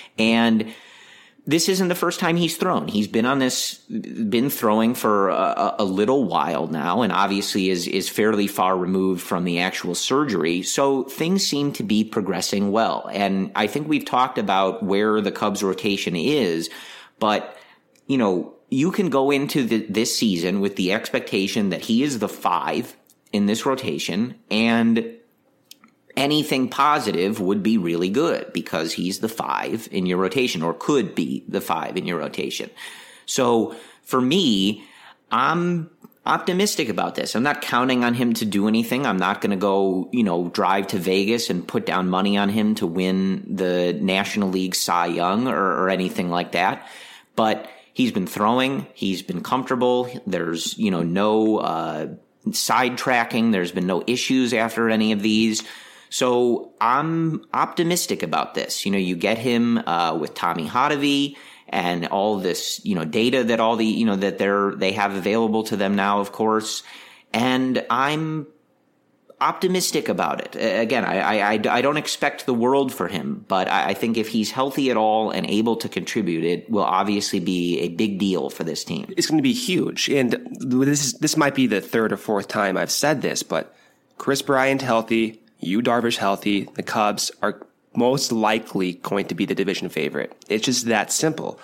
S4: And this isn't the first time he's thrown. He's been on this, been throwing for a, a little while now, and obviously is is fairly far removed from the actual surgery. So things seem to be progressing well. And I think we've talked about where the Cubs rotation is, but, you know, you can go into the, this season with the expectation that he is the five in this rotation, and anything positive would be really good because he's the five in your rotation, or could be the five in your rotation. So for me, I'm optimistic about this. I'm not counting on him to do anything. I'm not going to go, you know, drive to Vegas and put down money on him to win the National League Cy Young or, or anything like that. But he's been throwing. He's been comfortable. There's, you know, no uh, sidetracking. There's been no issues after any of these. So I'm optimistic about this. You know, you get him uh, with Tommy Hotovy and all this, you know, data that all the, you know, that they're, they have available to them now, of course. And I'm optimistic about it. Again, I, I, I don't expect the world for him, but I think if he's healthy at all and able to contribute, it will obviously be a big deal for this team.
S5: It's going to be huge. And this is, this might be the third or fourth time I've said this, but Kris Bryant healthy, Yu Darvish healthy, the Cubs are most likely going to be the division favorite. It's just that simple.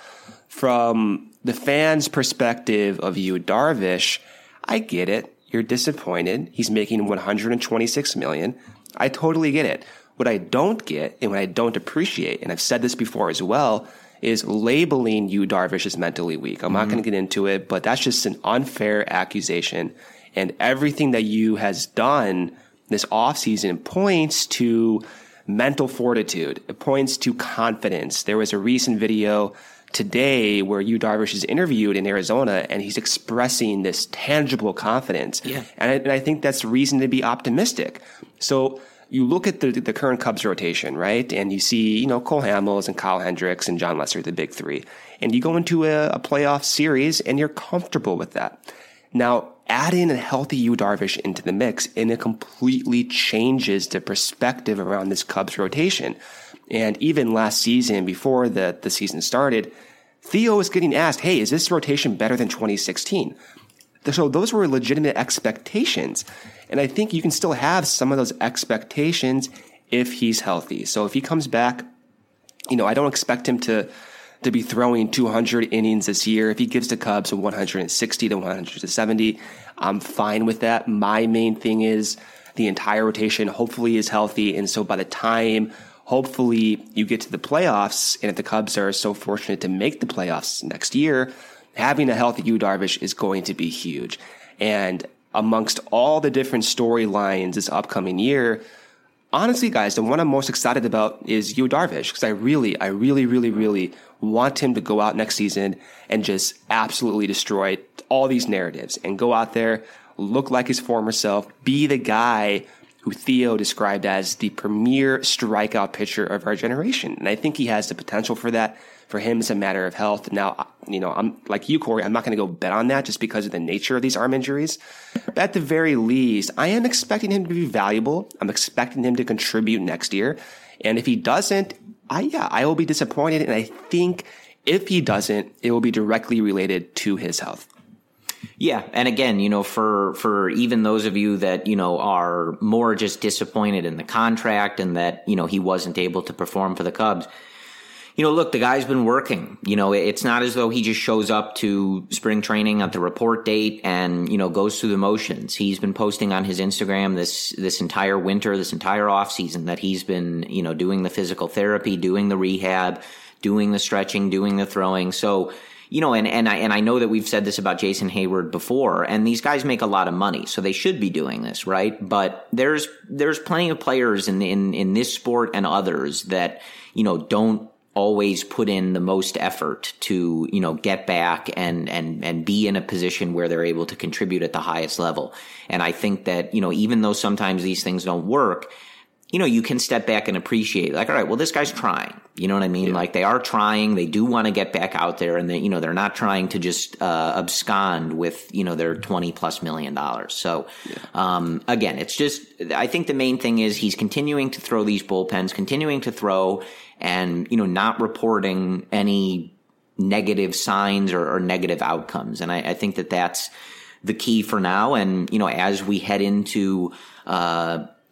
S5: From the fans' perspective of Yu Darvish, I get it. You're disappointed. He's making one hundred twenty-six million dollars. I totally get it. What I don't get and what I don't appreciate, and I've said this before as well, is labeling Yu Darvish as mentally weak. I'm mm-hmm. not going to get into it, but that's just an unfair accusation. And everything that Yu has done this offseason points to mental fortitude. It points to confidence. There was a recent video today where Yu Darvish is interviewed in Arizona, and he's expressing this tangible confidence.
S4: Yeah.
S5: And I, and I think that's reason to be optimistic. So you look at the, the current Cubs rotation, right? And you see, you know, Cole Hamels and Kyle Hendricks and John Lester, the big three. And you go into a, a playoff series and you're comfortable with that. Now, add in a healthy Yu Darvish into the mix, and it completely changes the perspective around this Cubs rotation. And even last season, before the, the season started, Theo was getting asked, hey, is this rotation better than twenty sixteen? So those were legitimate expectations. And I think you can still have some of those expectations if he's healthy. So if he comes back, you know, I don't expect him to to be throwing two hundred innings this year. If he gives the Cubs a one hundred sixty to one hundred seventy, I'm fine with that. My main thing is the entire rotation hopefully is healthy. And so by the time hopefully you get to the playoffs, and if the Cubs are so fortunate to make the playoffs next year, having a healthy Yu Darvish is going to be huge. And amongst all the different storylines this upcoming year, honestly, guys, the one I'm most excited about is Yu Darvish, because I really, I really, really, really want him to go out next season and just absolutely destroy all these narratives and go out there, look like his former self, be the guy who Theo described as the premier strikeout pitcher of our generation. And I think he has the potential for that. For him, it's a matter of health. Now, you know, I'm like you, Corey, I'm not going to go bet on that just because of the nature of these arm injuries. But at the very least, I am expecting him to be valuable. I'm expecting him to contribute next year. And if he doesn't, I, yeah, I will be disappointed. And I think if he doesn't, it will be directly related to his health.
S4: Yeah. And again, you know, for, for even those of you that, you know, are more just disappointed in the contract and that, you know, he wasn't able to perform for the Cubs, you know, look, the guy's been working. You know, it's not as though he just shows up to spring training at the report date and, you know, goes through the motions. He's been posting on his Instagram this, this entire winter, this entire off season that he's been, you know, doing the physical therapy, doing the rehab, doing the stretching, doing the throwing. So, you know, and, and I, and I know that we've said this about Jason Hayward before, and these guys make a lot of money, so they should be doing this, right? But there's, there's plenty of players in, in, in this sport and others that, you know, don't always put in the most effort to, you know, get back and, and, and be in a position where they're able to contribute at the highest level. And I think that, you know, even though sometimes these things don't work, you know, you can step back and appreciate, like, all right, well, this guy's trying. You know what I mean? Yeah. Like, they are trying. They do want to get back out there, and they, you know, they're not trying to just uh, abscond with, you know, their twenty plus million dollars. So, yeah. um, again, it's just, I think the main thing is he's continuing to throw these bullpens, continuing to throw, and, you know, not reporting any negative signs or, or negative outcomes. And I, I think that that's the key for now. And, you know, as we head into, uh,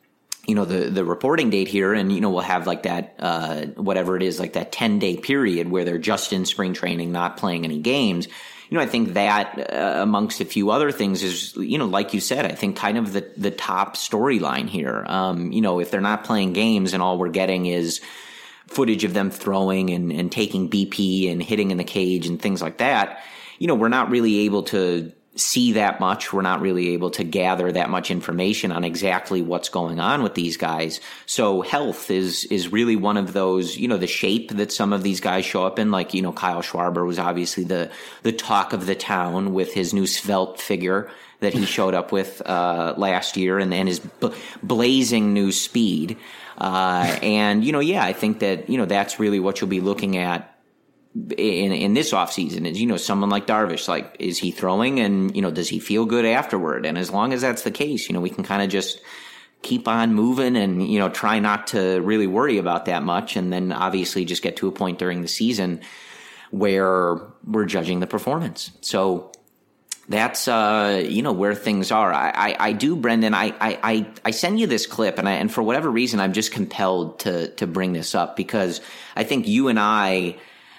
S4: you know, the, the reporting date here, and, you know, we'll have like that, uh, whatever it is, like that ten day period where they're just in spring training, not playing any games. You know, I think that uh, amongst a few other things is, you know, like you said, I think kind of the, the top storyline here. Um, you know, if they're not playing games and all we're getting is footage of them throwing and, and taking B P and hitting in the cage and things like that, you know, we're not really able to see that much. We're not really able to gather that much information on exactly what's going on with these guys. So health is is really one of those, you know, the shape that some of these guys show up in. Like, you know, Kyle Schwarber was obviously the the talk of the town with his new svelte figure that he showed up with uh, last year, and, and his b- blazing new speed. Uh, and, you know, yeah, I think that, you know, that's really what you'll be looking at in in this offseason is, you know, someone like Darvish, like, is he throwing and, you know, does he feel good afterward? And as long as that's the case, you know, we can kind of just keep on moving and, you know, try not to really worry about that much. And then obviously just get to a point during the season where we're judging the performance. So that's, uh, you know, where things are. I, I, I do, Brendan, I, I, I send you this clip, and I, and for whatever reason, I'm just compelled to, to bring this up because I think you and I,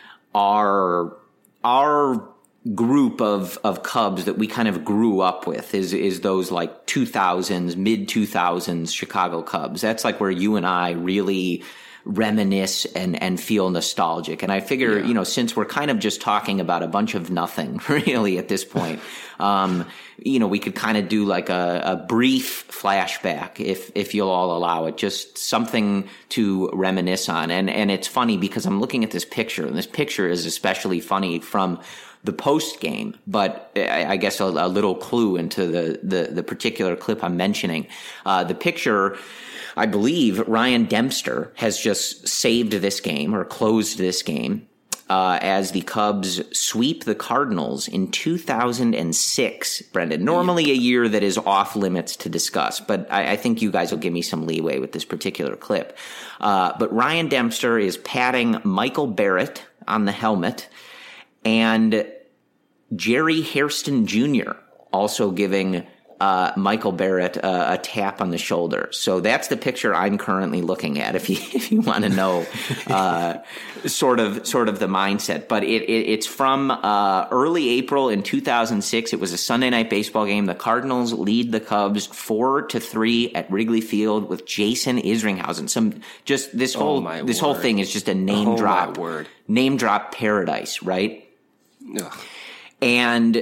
S4: Our our group of of Cubs that we kind of grew up with is is those like two thousands, mid two thousands Chicago Cubs. That's like where you and I really reminisce and and feel nostalgic. And I figure, yeah. you know, since we're kind of just talking about a bunch of nothing really at this point, um, you know, we could kind of do like a, a brief flashback if if you'll all allow it, just something to reminisce on. And and it's funny because I'm looking at this picture, and this picture is especially funny from the post game, but I, I guess a, a little clue into the, the, the particular clip I'm mentioning. Uh, the picture, I believe Ryan Dempster has just saved this game or closed this game uh, as the Cubs sweep the Cardinals in two thousand six, Brendan. Normally a year that is off limits to discuss, but I, I think you guys will give me some leeway with this particular clip. Uh, but Ryan Dempster is patting Michael Barrett on the helmet, and Jerry Hairston Junior also giving uh, Michael Barrett uh, a tap on the shoulder. So that's the picture I'm currently looking at. If you if you want to know, uh, sort of sort of the mindset, but it, it it's from uh, early April in two thousand six. It was a Sunday night baseball game. The Cardinals lead the Cubs four to three at Wrigley Field with Jason Isringhausen. Some just this whole
S5: oh
S4: this
S5: word.
S4: whole thing is just a name
S5: oh
S4: drop
S5: my word.
S4: name drop paradise, right?
S5: Ugh.
S4: And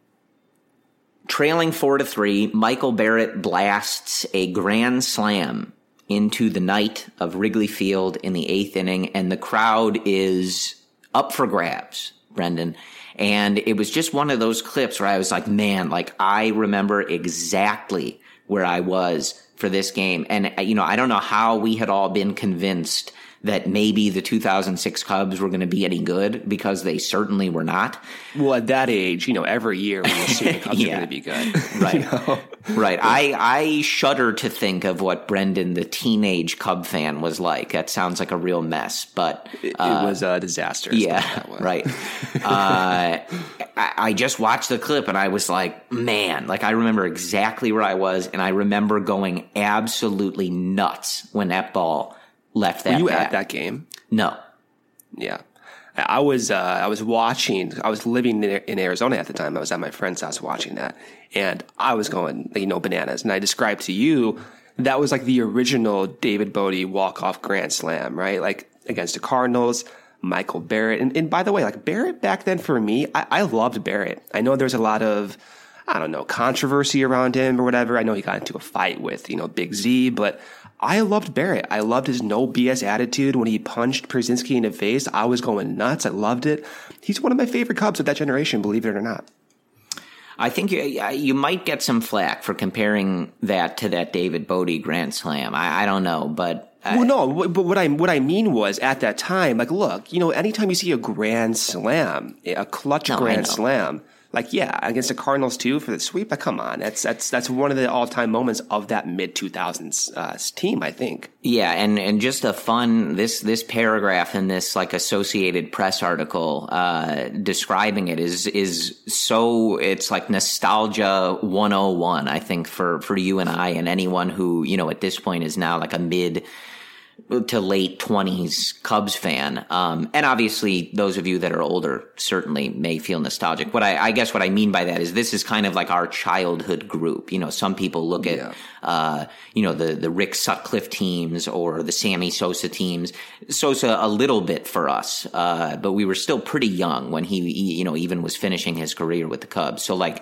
S4: trailing four to three, Michael Barrett blasts a grand slam into the night of Wrigley Field in the eighth inning, and the crowd is up for grabs, Brendan. And it was just one of those clips where I was like, man, like I remember exactly where I was for this game. And, you know, I don't know how we had all been convinced that maybe the two thousand six Cubs were going to be any good, because they certainly were not.
S5: Well, at that age, you know, every year we assume the Cubs
S4: yeah.
S5: are going to be good.
S4: Right.
S5: You know?
S4: Right. I, I shudder to think of what Brendan, the teenage Cub fan, was like. That sounds like a real mess, but
S5: uh, it,
S4: uh,
S5: it was a disaster.
S4: Yeah. Right. uh, I, I just watched the clip and I was like, man, like I remember exactly where I was, and I remember going absolutely nuts when that ball left that.
S5: Were you
S4: bat.
S5: at that game?
S4: No.
S5: Yeah. I was uh, I was watching. I was living in Arizona at the time. I was at my friend's house watching that, and I was going, you know, bananas. And I described to you that was like the original David Bote walk-off grand slam, right? Like against the Cardinals, Michael Barrett. And, and by the way, like Barrett back then for me, I, I loved Barrett. I know there's a lot of, I don't know, controversy around him or whatever. I know he got into a fight with, you know, Big Z, but I loved Barrett. I loved his no B S attitude. When he punched Przinsky in the face, I was going nuts. I loved it. He's one of my favorite Cubs of that generation, believe it or not.
S4: I think you, you might get some flack for comparing that to that David Bote grand slam. I, I don't know, but I,
S5: well, no. But what I what I mean was at that time, like, look, you know, anytime you see a grand slam, a clutch
S4: no,
S5: grand slam, Like, yeah, against the Cardinals too for the sweep. Like, come on, that's that's that's one of the all time moments of that mid two thousands uh, team, I think.
S4: Yeah, and, and just a fun this this paragraph in this like Associated Press article uh, describing it is is so it's like nostalgia one oh one, I think, for for you and I and anyone who, you know, at this point is now like a mid to late twenties Cubs fan. Um, and obviously those of you that are older certainly may feel nostalgic. What I, I guess what I mean by that is this is kind of like our childhood group. You know, some people look at, yeah. uh, you know, the, the Rick Sutcliffe teams or the Sammy Sosa teams. Sosa a little bit for us, uh, but we were still pretty young when he, you know, even was finishing his career with the Cubs. So like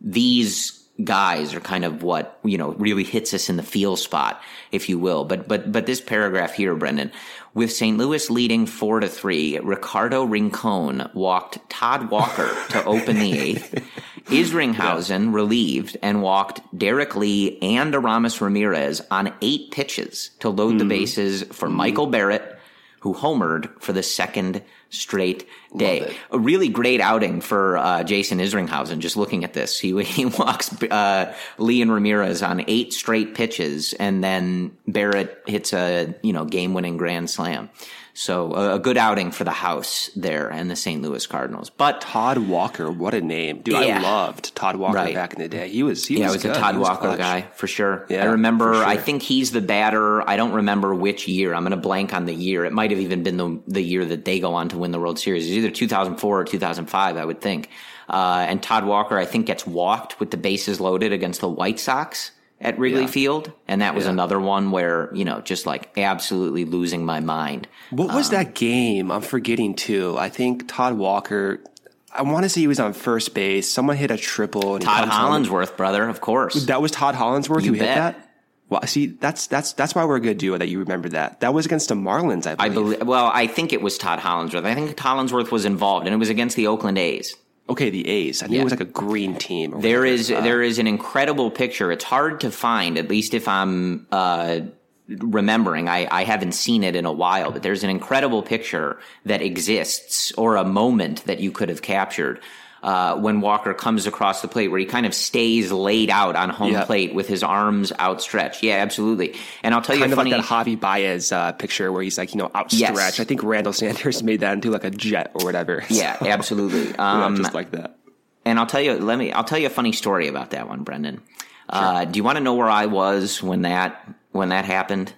S4: these guys are kind of what, you know, really hits us in the feel spot, if you will. But but but this paragraph here, Brendan, with Saint Louis leading four to three, Ricardo Rincon walked Todd Walker to open the eighth. Isringhausen yeah. relieved and walked Derek Lee and Aramis Ramirez on eight pitches to load mm-hmm. the bases for mm-hmm. Michael Barrett, who homered for the second straight day. A really great outing for uh, Jason Isringhausen. Just looking at this, he he walks uh, Lee and Ramirez on eight straight pitches, and then Barrett hits a you know game winning grand slam. So a, a good outing for the house there and the Saint Louis Cardinals. But
S5: Todd Walker, what a name, dude!
S4: Yeah.
S5: I loved Todd Walker
S4: right.
S5: back in the day. He was he
S4: yeah,
S5: was,
S4: I was
S5: good.
S4: a Todd
S5: he was
S4: Walker
S5: clutch.
S4: guy for sure.
S5: Yeah,
S4: I remember.
S5: sure.
S4: I think he's the batter. I don't remember which year. I'm going to blank on the year. It might have even been the the year that they go on to win the World Series. It's either two thousand four or two thousand five, I would think. Uh, and Todd Walker, I think, gets walked with the bases loaded against the White Sox at Wrigley
S5: yeah.
S4: Field. And that was
S5: yeah.
S4: another one where, you know, just like absolutely losing my mind.
S5: What was
S4: um,
S5: that game? I'm forgetting too. I think Todd Walker, I want to say he was on first base. Someone hit a triple. And
S4: Todd
S5: he
S4: Hollandsworth, brother, of course.
S5: That was Todd Hollandsworth
S4: you
S5: who
S4: bet.
S5: hit that? Well, see, that's that's that's why we're a good duo that you remember that. That was against the Marlins, I believe.
S4: I believe. Well, I think it was Todd Hollandsworth. I think Hollandsworth was involved, and it was against the Oakland A's.
S5: Okay, the A's. I knew
S4: yeah.
S5: it was like a green team. Or
S4: there
S5: whatever.
S4: is
S5: uh,
S4: there is an incredible picture. It's hard to find, at least if I'm uh, remembering. I, I haven't seen it in a while, but there's an incredible picture that exists, or a moment that you could have captured uh, when Walker comes across the plate, where he kind of stays laid out on home
S5: yeah.
S4: plate with his arms outstretched. Yeah, absolutely. And I'll tell
S5: kind
S4: you a funny,
S5: like that Javi Baez uh, picture where he's like, you know, outstretched.
S4: Yes.
S5: I think Randall Sanders made that into like a jet or whatever.
S4: Yeah, absolutely. Um,
S5: yeah, just like that.
S4: And I'll tell you, let me, I'll tell you a funny story about that one, Brendan. Sure. Uh, do you want to know where I was when that, when that happened?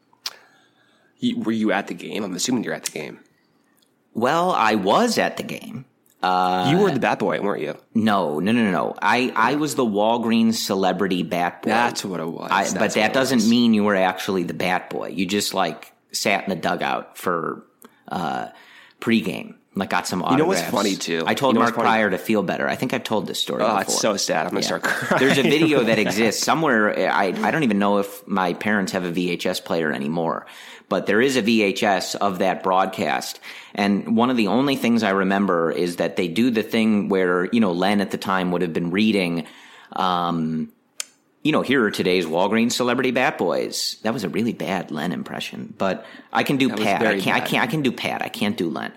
S5: You, were you at the game? I'm assuming you're at the game.
S4: Well, I was at the game. Uh,
S5: you were the bat boy, weren't you?
S4: No, no, no, no. I, I was the Walgreens celebrity bat boy.
S5: That's what it was.
S4: I,
S5: That's
S4: but that doesn't
S5: was.
S4: mean you were actually the bat boy. You just like sat in the dugout for uh, pregame. Like got some autographs.
S5: You know what's funny too?
S4: I told
S5: you know
S4: Mark Pryor to feel better. I think I've told this story
S5: oh,
S4: before.
S5: it's so sad. I'm gonna yeah. start crying.
S4: There's a video that exists somewhere. I I don't even know if my parents have a V H S player anymore, but there is a V H S of that broadcast. And one of the only things I remember is that they do the thing where, you know, Len at the time would have been reading, um, you know, here are today's Walgreens celebrity bat boys. That was a really bad Len impression, but I can do
S5: that
S4: Pat. I can't. Bad. I can't. I can do Pat. I can't do Len.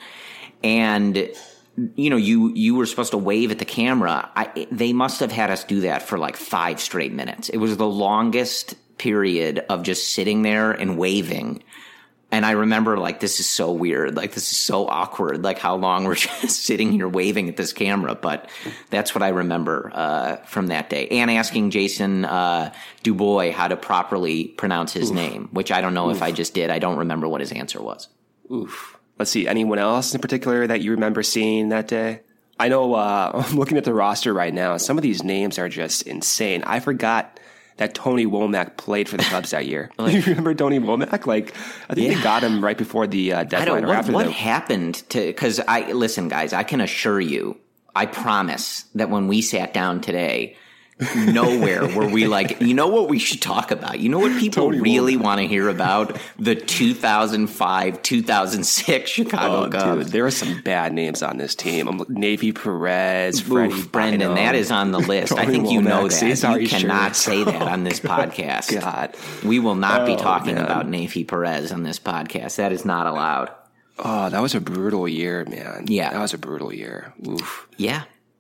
S4: And, you know, you, you were supposed to wave at the camera. I, they must have had us do that for like five straight minutes. It was the longest period of just sitting there and waving. And I remember, like, this is so weird. Like, this is so awkward. Like, how long we're just sitting here waving at this camera. But that's what I remember uh, from that day. And asking Jason uh, Dubois how to properly pronounce his Oof. name, which I don't know Oof. if I just did. I don't remember what his answer was.
S5: Oof. Let's see. Anyone else in particular that you remember seeing that day? I know uh, I'm looking at the roster right now. Some of these names are just insane. I forgot that Tony Womack played for the Cubs that year. Like, you remember Tony Womack? Like, I think yeah. they got him right before the uh, deadline. I don't,
S4: or
S5: what
S4: after
S5: what
S4: the... happened to, because I, listen, guys, I can assure you, I promise that when we sat down today, nowhere were we like, you know what we should talk about? You know what people Tony really want to hear about? The two thousand five, two thousand six Chicago oh, Cubs.
S5: Dude, there are some bad names on this team. I'm, Navy Perez, Freddie
S4: Oof, Brendan,
S5: Bynum,
S4: that is on the list. I think you know that. You, you cannot sure? say that on this podcast.
S5: God.
S4: We will not
S5: oh,
S4: be talking
S5: man.
S4: about Navy Perez on this podcast. That is not allowed.
S5: Oh, that was a brutal year, man.
S4: Yeah.
S5: That was a brutal year. Oof.
S4: Yeah.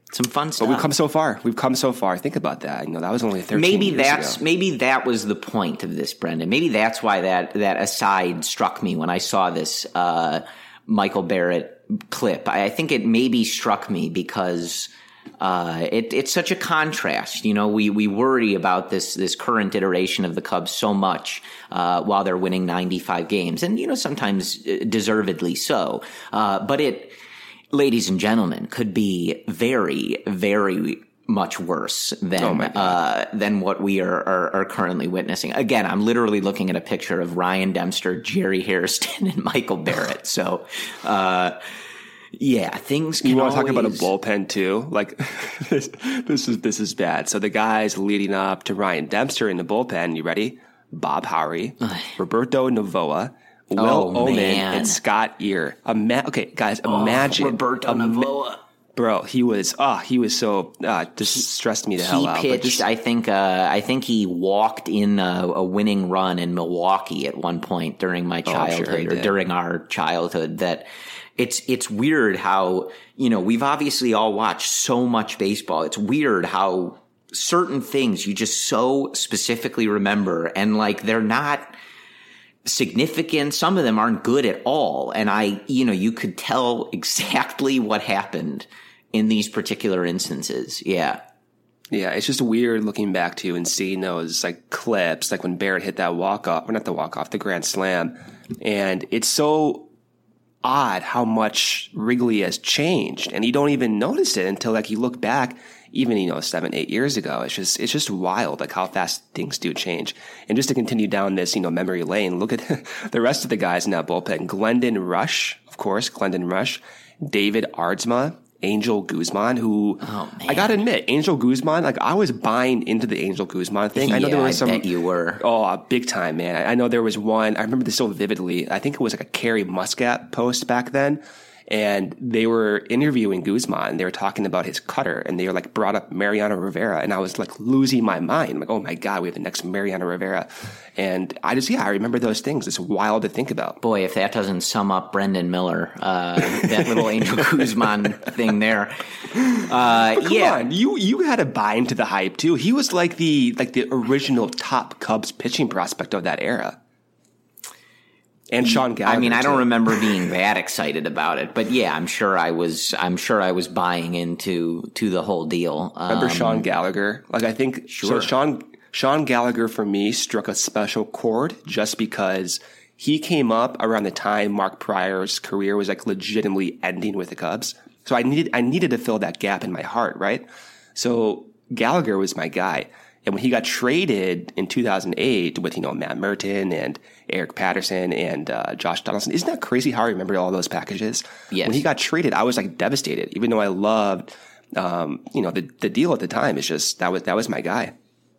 S4: Some fun stuff.
S5: But we've come so far. We've come so far. Think about that. You know, that was only thirteen
S4: maybe
S5: years
S4: that's
S5: ago.
S4: maybe that was the point of this, Brendan. Maybe that's why that that aside struck me when I saw this uh, Michael Barrett clip. I, I think it maybe struck me because uh, it, it's such a contrast. You know, we we worry about this this current iteration of the Cubs so much uh, while they're winning ninety-five games, and you know sometimes deservedly so. Uh, but it. Ladies and gentlemen, could be very, very much worse than
S5: oh
S4: uh, than what we are, are, are currently witnessing. Again, I'm literally looking at a picture of Ryan Dempster, Jerry Hairston, and Michael Barrett. So, uh, yeah, things can
S5: You want to
S4: always...
S5: talk about a bullpen too? Like this, this is this is bad. So the guys leading up to Ryan Dempster in the bullpen, you ready? Bob Howery, Roberto Novoa, Will
S4: Oh,
S5: Omen,
S4: man.
S5: and Scott Ear. Ima- okay, guys, imagine.
S4: Oh, Roberto
S5: Ima-
S4: Novoa.
S5: Bro, he was, oh, he was so, uh, just stressed me the hell
S4: He
S5: out. But
S4: pitched.
S5: just-
S4: I think. Uh, I think he walked in a, a winning run in Milwaukee at one point during my
S5: Oh, I'm sure
S4: childhood,
S5: he
S4: or
S5: did.
S4: during our childhood. That it's it's weird how you know we've obviously all watched so much baseball. It's weird how certain things you just so specifically remember, and like they're not significant. Some of them aren't good at all, and I, you know, you could tell exactly what happened in these particular instances. Yeah.
S5: Yeah, it's just weird looking back to and seeing those like clips, like when Barrett hit that walk off, or not the walk off, the grand slam. And it's so odd how much Wrigley has changed, and you don't even notice it until like you look back, even, you know, seven, eight years ago. It's just, it's just wild, like how fast things do change. And just to continue down this, you know, memory lane, look at the rest of the guys in that bullpen. Glendon Rush, of course, Glendon Rush, David Aardsma, Angel Guzman, who
S4: Oh, man.
S5: I gotta admit, Angel Guzman, like I was buying into the Angel Guzman thing. I know
S4: Yeah,
S5: there was
S4: I
S5: some.
S4: bet you were.
S5: Oh, big time, man. I know there was one. I remember this so vividly. I think it was like a Carrie Muscat post back then. And they were interviewing Guzman. They were talking about his cutter, and they were like brought up Mariano Rivera, and I was like losing my mind. I'm like, oh my god, we have the next Mariano Rivera, and I just yeah, I remember those things. It's wild to think about.
S4: Boy, if that doesn't sum up Brendan Miller, uh, that little Angel Guzman thing there. Uh,
S5: Come
S4: yeah.
S5: on, you you had to buy into the hype too. He was like the like the original top Cubs pitching prospect of that era. And Sean Gallagher.
S4: I mean, I don't
S5: too.
S4: remember being that excited about it, but yeah, I'm sure I was. I'm sure I was buying into to the whole deal. Um,
S5: Remember Sean Gallagher? Like I think
S4: Sure.
S5: so. Sean Sean Gallagher for me struck a special chord just because he came up around the time Mark Pryor's career was like legitimately ending with the Cubs. So I needed I needed to fill that gap in my heart, right? So Gallagher was my guy. And when he got traded in two thousand eight with, you know, Matt Merton and Eric Patterson and uh, Josh Donaldson, isn't that crazy how I remember all those packages?
S4: Yes.
S5: When he got traded, I was like devastated, even though I loved, um, you know, the, the deal at the time. It's just, that was, that was my guy.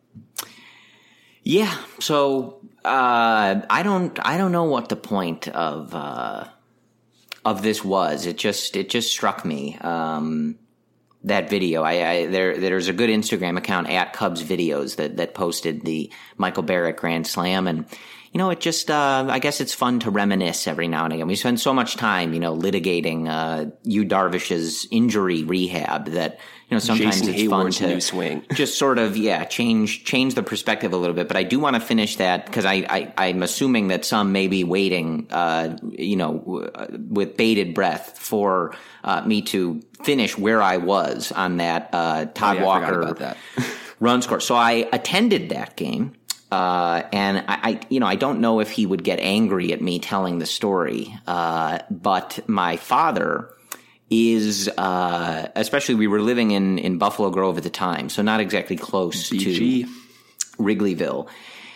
S4: Yeah. So uh, I don't. I don't know what the point of uh, of this was. It just. It just struck me. Um, That video, I, I there there's a good Instagram account at Cubs Videos that that posted the Michael Barrett Grand Slam, and you know it just uh, I guess it's fun to reminisce every now and again. We spend so much time, you know, litigating uh, Yu Darvish's injury rehab that you know sometimes
S5: Jason
S4: it's
S5: Hayward's
S4: fun to
S5: new swing.
S4: just sort of yeah change change the perspective a little bit. But I do want to finish that because I, I I'm assuming that some may be waiting, uh, you know, w- with bated breath for uh, me to finish where I was on that uh, Todd
S5: Oh, yeah, I forgot
S4: Walker
S5: about that.
S4: run score. So I attended that game, uh, and I, I, you know, I don't know if he would get angry at me telling the story, uh, but my father is, uh, especially we were living in in Buffalo Grove at the time, so not exactly close
S5: B G.
S4: to Wrigleyville,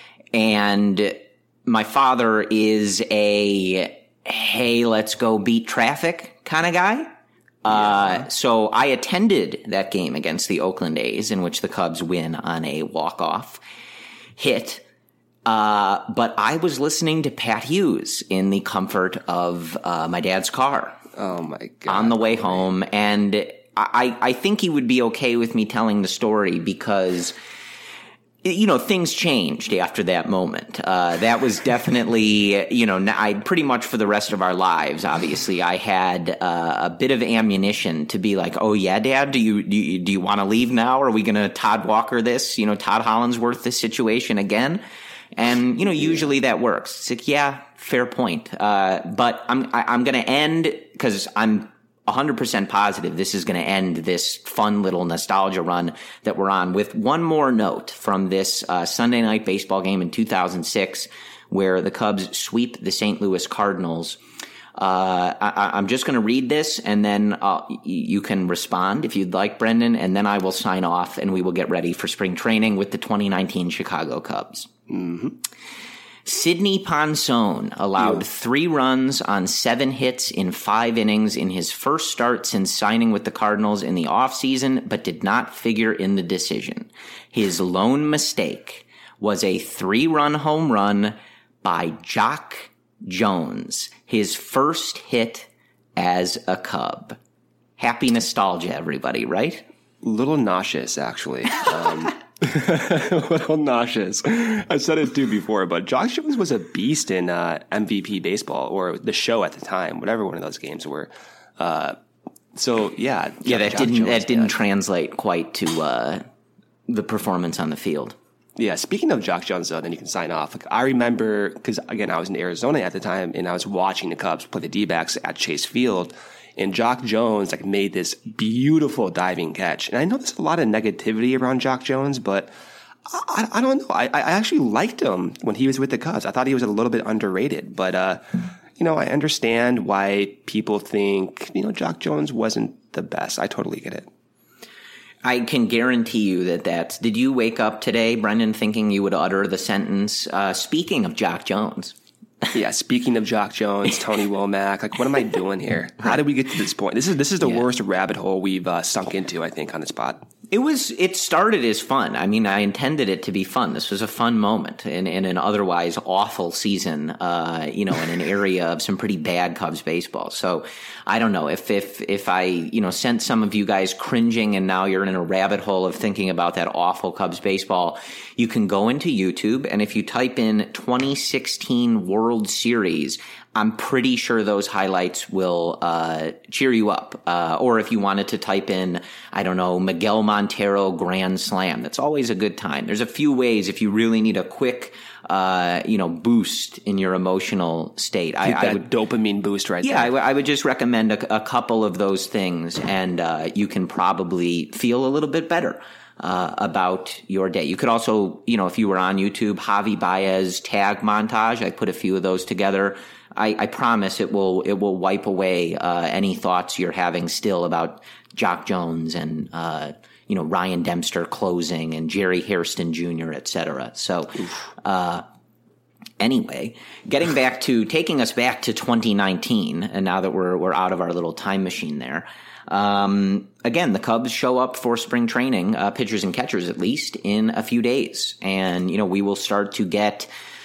S4: and my father is a hey, let's go beat traffic kind of guy. Uh, so I attended that game against the Oakland A's in which the Cubs win on a walk-off hit. Uh, but I was listening to Pat Hughes in the comfort of uh, my dad's car
S5: Oh my God.
S4: on the way home. And I, I think he would be okay with me telling the story because you know, things changed after that moment. Uh, that was definitely, you know, I pretty much for the rest of our lives, obviously, I had uh, a bit of ammunition to be like, oh, yeah, Dad, do you do you, do you want to leave now? Are we going to Todd Walker this, you know, Todd Hollandsworth this situation again? And, you know, usually that works. It's like, yeah, fair point. Uh, but I'm, I, I'm going to end because I'm one hundred percent positive this is going to end this fun little nostalgia run that we're on with one more note from this uh, Sunday night baseball game in two thousand six where the Cubs sweep the Saint Louis Cardinals. Uh, I, I'm just going to read this and then uh, you can respond if you'd like, Brendan, and then I will sign off and we will get ready for spring training with the twenty nineteen Chicago Cubs.
S5: Mm-hmm.
S4: Sidney Ponson allowed yeah. three runs on seven hits in five innings in his first start since signing with the Cardinals in the offseason, but did not figure in the decision. His lone mistake was a three-run home run by Jock Jones, his first hit as a Cub. Happy nostalgia, everybody, right?
S5: A little nauseous, actually. Um a little nauseous. I've said it too before, but Jock Jones was a beast in uh, M V P baseball, or the show at the time, whatever one of those games were. Uh, so yeah,
S4: yeah, that
S5: Jock
S4: didn't
S5: Jones,
S4: that didn't
S5: yeah.
S4: translate quite to uh, the performance on the field.
S5: Yeah, speaking of Jock Jones, though, then you can sign off. Like, I remember, because again, I was in Arizona at the time, and I was watching the Cubs play the D-backs at Chase Field. And Jock Jones like made this beautiful diving catch. And I know there's a lot of negativity around Jock Jones, but I, I don't know. I, I actually liked him when he was with the Cubs. I thought he was a little bit underrated. But, uh, you know, I understand why people think, you know, Jock Jones wasn't the best. I totally get it.
S4: I can guarantee you that that's... Did you wake up today, Brendan, thinking you would utter the sentence, uh, speaking of Jock Jones?
S5: Yeah, speaking of Jock Jones, Tony Womack, like, what am I doing here? How did we get to this point? This is this is the yeah. worst rabbit hole we've uh, sunk into, I think, on this pod.
S4: It was. It started as fun. I mean, I intended it to be fun. This was a fun moment in, in an otherwise awful season, uh, you know, in an area of some pretty bad Cubs baseball. So I don't know if if if I you know sent some of you guys cringing and now you're in a rabbit hole of thinking about that awful Cubs baseball. You can go into YouTube, and if you type in twenty sixteen World Series, I'm pretty sure those highlights will uh, cheer you up. Uh, or if you wanted to type in, I don't know, Miguel Montero Grand Slam, that's always a good time. There's a few ways if you really need a quick, uh, you know, boost in your emotional state.
S5: I,
S4: I
S5: that
S4: would
S5: dopamine boost right
S4: yeah,
S5: there.
S4: I, w- I would just recommend a, a couple of those things, and uh, you can probably feel a little bit better. Uh, about your day. You could also, you know, if you were on YouTube, Javi Baez tag montage. I put a few of those together. I, I promise it will it will wipe away uh, any thoughts you're having still about Jock Jones and uh, you know Ryan Dempster closing and Jerry Hairston Junior, et cetera. So, uh, anyway, getting back to taking us back to twenty nineteen, and now that we're we're out of our little time machine there. Um, again, the Cubs show up for spring training, uh, pitchers and catchers at least, in a few days. And, you know, we will start to get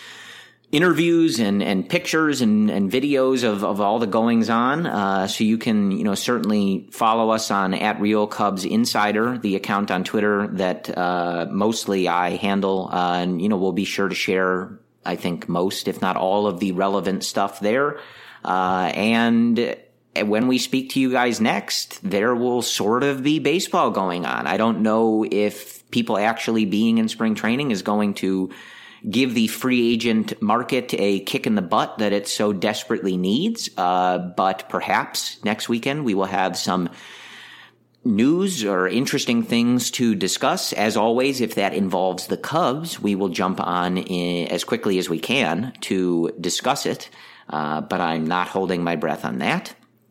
S4: interviews and, and pictures and, and videos of, of all the goings on. Uh, so you can, you know, certainly follow us on at Real Cubs Insider, the account on Twitter that, uh, mostly I handle. Uh, and, you know, we'll be sure to share, I think, most, if not all of the relevant stuff there. Uh, and, when we speak to you guys next, there will sort of be baseball going on. I don't know if people actually being in spring training is going to give the free agent market a kick in the butt that it so desperately needs. Uh, but perhaps next weekend we will have some news or interesting things to discuss. As always, if that involves the Cubs, we will jump on in as quickly as we can to discuss it. Uh, but I'm not holding my breath on that.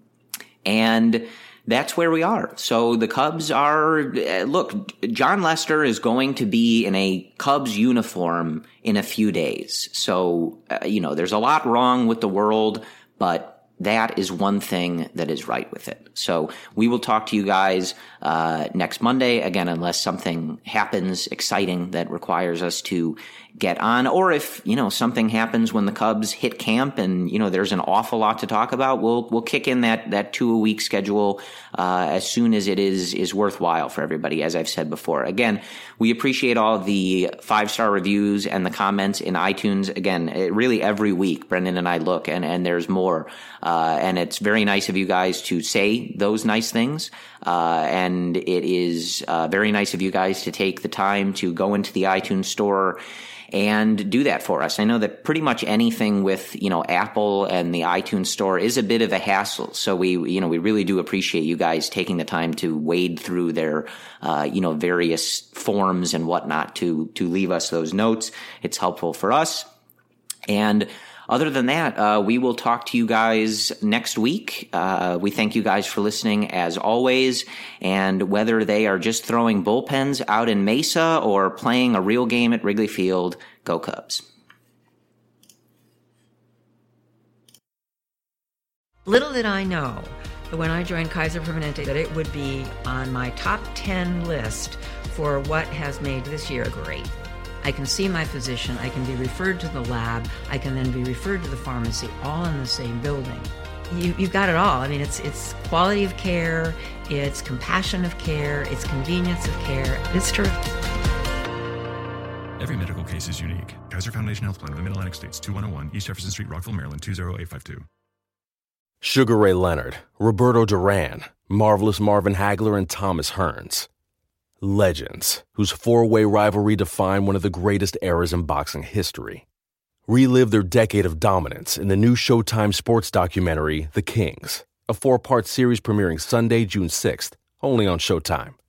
S4: And that's where we are. So the Cubs are, look, John Lester is going to be in a Cubs uniform in a few days. So, uh, you know, there's a lot wrong with the world, but that is one thing that is right with it. So we will talk to you guys uh, next Monday, again, unless something happens exciting that requires us to get on. Or if, you know, something happens when the Cubs hit camp and, you know, there's an awful lot to talk about, we'll we'll kick in that that two-a-week schedule uh, as soon as it is is worthwhile for everybody, as I've said before. Again, we appreciate all the five-star reviews and the comments in iTunes. Again, it, really every week, Brendan and I look, and, and there's more. Uh, and it's very nice of you guys to say those nice things. Uh, and it is uh, very nice of you guys to take the time to go into the iTunes store and do that for us. I know that pretty much anything with, you know, Apple and the iTunes store is a bit of a hassle. So we, you know, we really do appreciate you guys taking the time to wade through their, uh, you know, various forms and whatnot to, to leave us those notes. It's helpful for us. And other than that, uh, we will talk to you guys next week. Uh, we thank you guys for listening as always. And whether they are just throwing bullpens out in Mesa or playing a real game at Wrigley Field, go Cubs.
S6: Little did I know that when I joined Kaiser Permanente that it would be on my top ten list for what has made this year great. I can see my physician, I can be referred to the lab, I can then be referred to the pharmacy, all in the same building. You, you've got it all. I mean, it's it's quality of care, it's compassion of care, it's convenience of care. It's terrific.
S7: Every medical case is unique. Kaiser Foundation Health Plan of the Mid-Atlantic States, two one oh one East Jefferson Street, Rockville, Maryland, two oh eight five two.
S8: Sugar Ray Leonard, Roberto Duran, Marvelous Marvin Hagler, and Thomas Hearns. Legends, whose four-way rivalry defined one of the greatest eras in boxing history. Relive their decade of dominance in the new Showtime sports documentary, The Kings, a four-part series premiering Sunday, June sixth, only on Showtime.